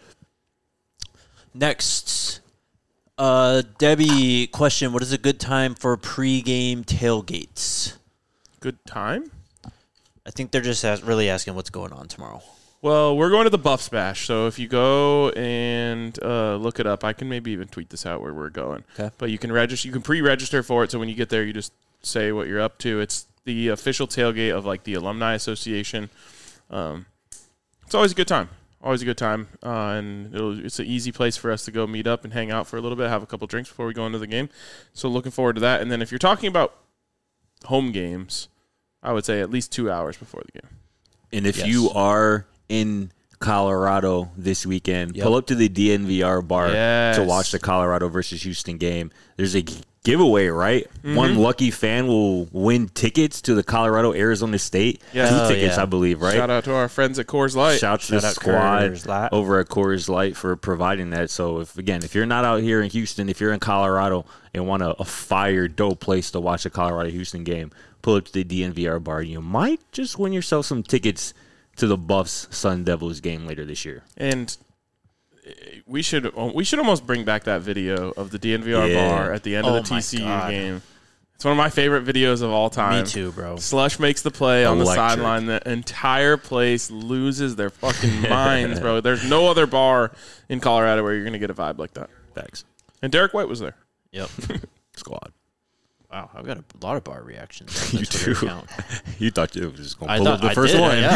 Next, Debbie, question: what is a good time for pregame tailgates? Good time. I think they're just really asking what's going on tomorrow. Well, we're going to the Buffs Bash, so if you go and look it up, I can maybe even tweet this out where we're going. Okay. But you can register. You can pre-register for it, so when you get there, you just say what you're up to. It's the official tailgate of like the Alumni Association. It's always a good time. Always a good time, and it's an easy place for us to go meet up and hang out for a little bit, have a couple drinks before we go into the game. So looking forward to that. And then if you're talking about home games, I would say at least 2 hours before the game. And if Yes. you are in Colorado this weekend, pull up to the DNVR bar Yes. to watch the Colorado versus Houston game. There's a giveaway, right? One lucky fan will win tickets to the Colorado-Arizona State. Yeah. 2 Oh, tickets, yeah. I believe, right? Shout out to our friends at Coors Light. Shout to the Shout out squad Coors Light. over at Coors Light for providing that. So, if you're not out here in Houston, if you're in Colorado and want a fire, dope place to watch a Colorado-Houston game, pull up to the DNVR bar. You might just win yourself some tickets to the Buffs Sun Devils game later this year. And we should almost bring back that video of the DNVR Yeah. bar at the end of Oh the my TCU God. game. It's one of my favorite videos of all time. Me too, bro. Slush makes the play on the Electric. sideline. The entire place loses their fucking minds, bro. There's no other bar in Colorado where you're going to get a vibe like that. Facts. And Derek White was there. Yep. Squad. Wow, I've got a lot of bar reactions. On You the Twitter do. account. You thought it was just going I to pull thought up the I first did, one.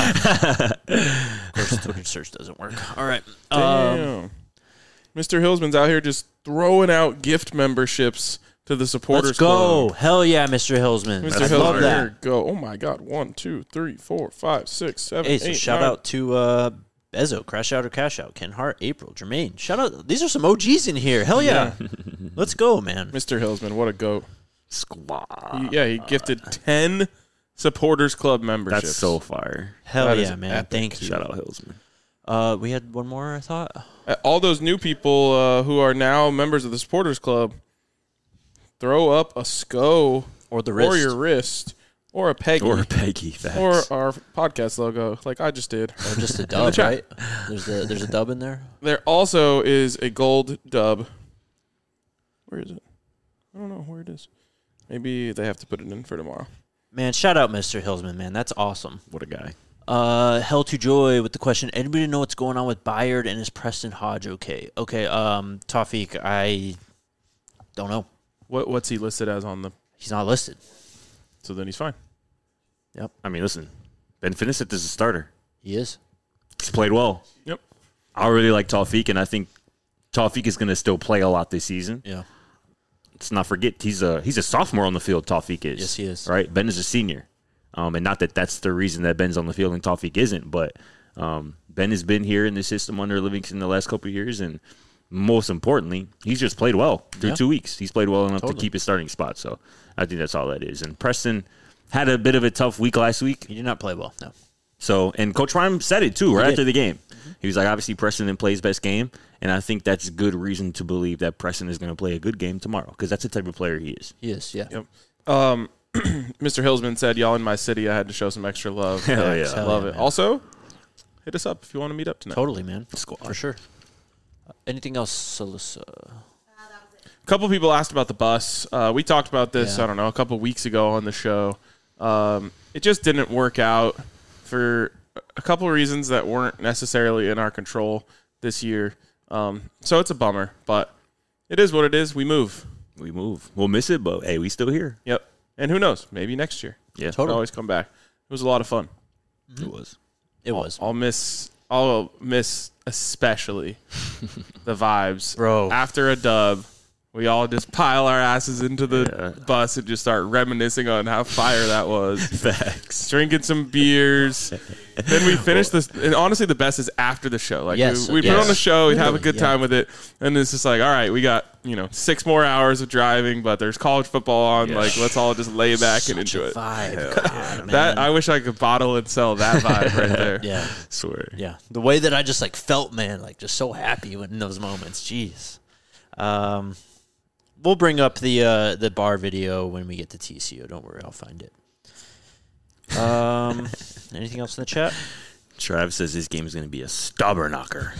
Yeah. Of course, the Twitter search doesn't work. All right. Damn. Mr. Hillsman's out here just throwing out gift memberships to the supporters Let's go. club. Hell yeah, Mr. Hillsman. Mr. I Hillsman, love that. here, go. Oh my God. 1, 2, 3, 4, 5, 6, 7, Hey, 8, so shout 9. out to Bezo, Crash Out or Cash Out, Ken Hart, April, Jermaine. Shout out. These are some OGs in here. Hell yeah. Let's go, man. Mr. Hillsman, what a goat. Squad. He gifted 10 supporters club memberships. That's so fire. Hell That is yeah, man. epic. Thank you. Shout out Hillsman. We had one more, I thought. All those new people who are now members of the supporters club, throw up a SCO Or the or wrist. your wrist or a Peggy Or Peggy. Facts. or our podcast logo, like I just did. Or just a dub, chat. right? There's a dub in there. There also is a gold dub. Where is it? I don't know where it is. Maybe they have to put it in for tomorrow. Man, shout out Mr. Hillsman, man. That's awesome. What a guy. Hell to Joy with the question, anybody know what's going on with Byard and is Preston Hodge okay? Okay, Tawfiq, I don't know. What's he listed as on the? He's not listed. So then he's fine. I mean, listen. Ben Finnissett is a starter. He is. He's played well. Yep. I really like Tawfiq, and I think Tawfiq is going to still play a lot this season. Yeah. Let's not forget, he's a sophomore on the field, Tawfiq is. Yes, he is. Right? Ben is a senior. And not that that's the reason that Ben's on the field and Tawfiq isn't, but Ben has been here in the system under Livingston the last couple of years, and most importantly, he's just played well through 2 weeks. He's played well enough to keep his starting spot, so I think that's all that is. And Preston had a bit of a tough week last week. He did not play well, no. So, and Coach Prime said it too right after the game. He was like, obviously Preston didn't play his best game, and I think that's good reason to believe that Preston is going to play a good game tomorrow because that's the type of player he is. He is, yeah. Yep. Mr. Hillsman said, y'all in my city, I had to show some extra love. Hell yeah. Love it. Man. Also, hit us up if you want to meet up tonight. Totally, man. For sure. Anything else, Alyssa? A couple people asked about the bus. We talked about this, I don't know, a couple weeks ago on the show. It just didn't work out for a couple of reasons that weren't necessarily in our control this year. So it's a bummer, but it is what it is. We move. We'll miss it, but hey, we still here. Yep. And who knows? Maybe next year. Yeah, We'll always come back. It was a lot of fun. It was. I'll miss especially the vibes. Bro. After a dub, we all just pile our asses into the bus and just start reminiscing on how fire that was. Facts. Drinking some beers. Then we finish this. And honestly, the best is after the show. Like we put on the show, we'd have a good time with it. And it's just like, all right, we got 6 more hours of driving, but there's college football on. Like, let's all just lay back and enjoy it. Vibe. That I wish I could bottle and sell that vibe right there. Yeah. Swear. Yeah. The way that I just felt, man, just so happy in those moments. Jeez. We'll bring up the bar video when we get to TCO. Don't worry, I'll find it. Anything else in the chat? Trav says this game is going to be a stubborn knocker.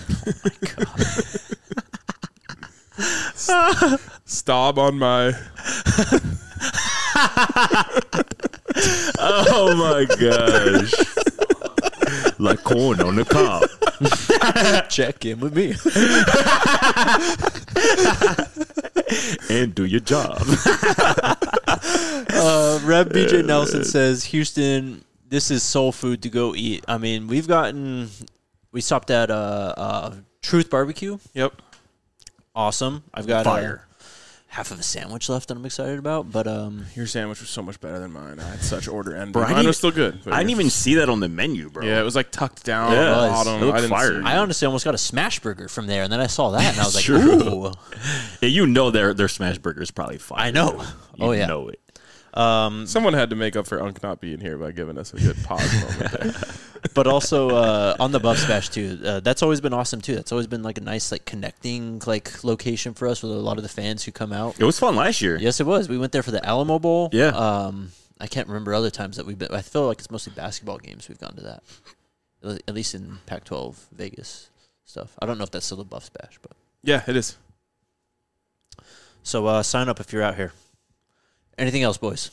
Stob on my. Oh my gosh. Like corn on the cob. Check in with me. And do your job. Rev BJ Nelson says, Houston, this is soul food to go eat. I mean, we stopped at Truth Barbecue. Yep. Awesome. I've got Fire. half of a sandwich left that I'm excited about, but Your sandwich was so much better than mine. I had such order envy. Bro, Mine was still good. I didn't even see that on the menu, bro. Yeah, it was tucked down Yeah, at the it was. bottom. It looked I didn't fire. see it. I honestly almost got a smash burger from there, and then I saw that, and I was like, True. ooh. Yeah, their smash burger is probably fire. I know. You know it. Someone had to make up for Unk not being here by giving us a good pause moment there. But also on the Buff Smash too, that's always been awesome too. That's always been a nice connecting location for us with a lot of the fans who come out. It was fun last year. Yes, it was. We went there for the Alamo Bowl. Yeah. I can't remember other times that we've been. I feel like it's mostly basketball games we've gone to that. At least in Pac-12 Vegas stuff. I don't know if that's still the Buff Smash, but Yeah, it is. so sign up if you're out here. Anything else, boys?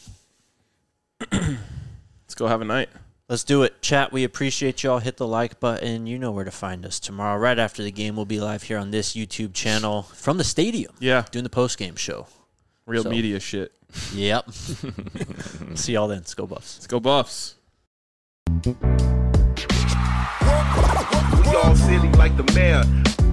Let's go have a night. Let's do it. Chat, we appreciate y'all. Hit the like button. You know where to find us tomorrow. Right after the game, we'll be live here on this YouTube channel from the stadium. Yeah. Doing the post-game show. Real media shit. Yep. See y'all then. Let's go Buffs. Let's go Buffs. We all silly like the mayor.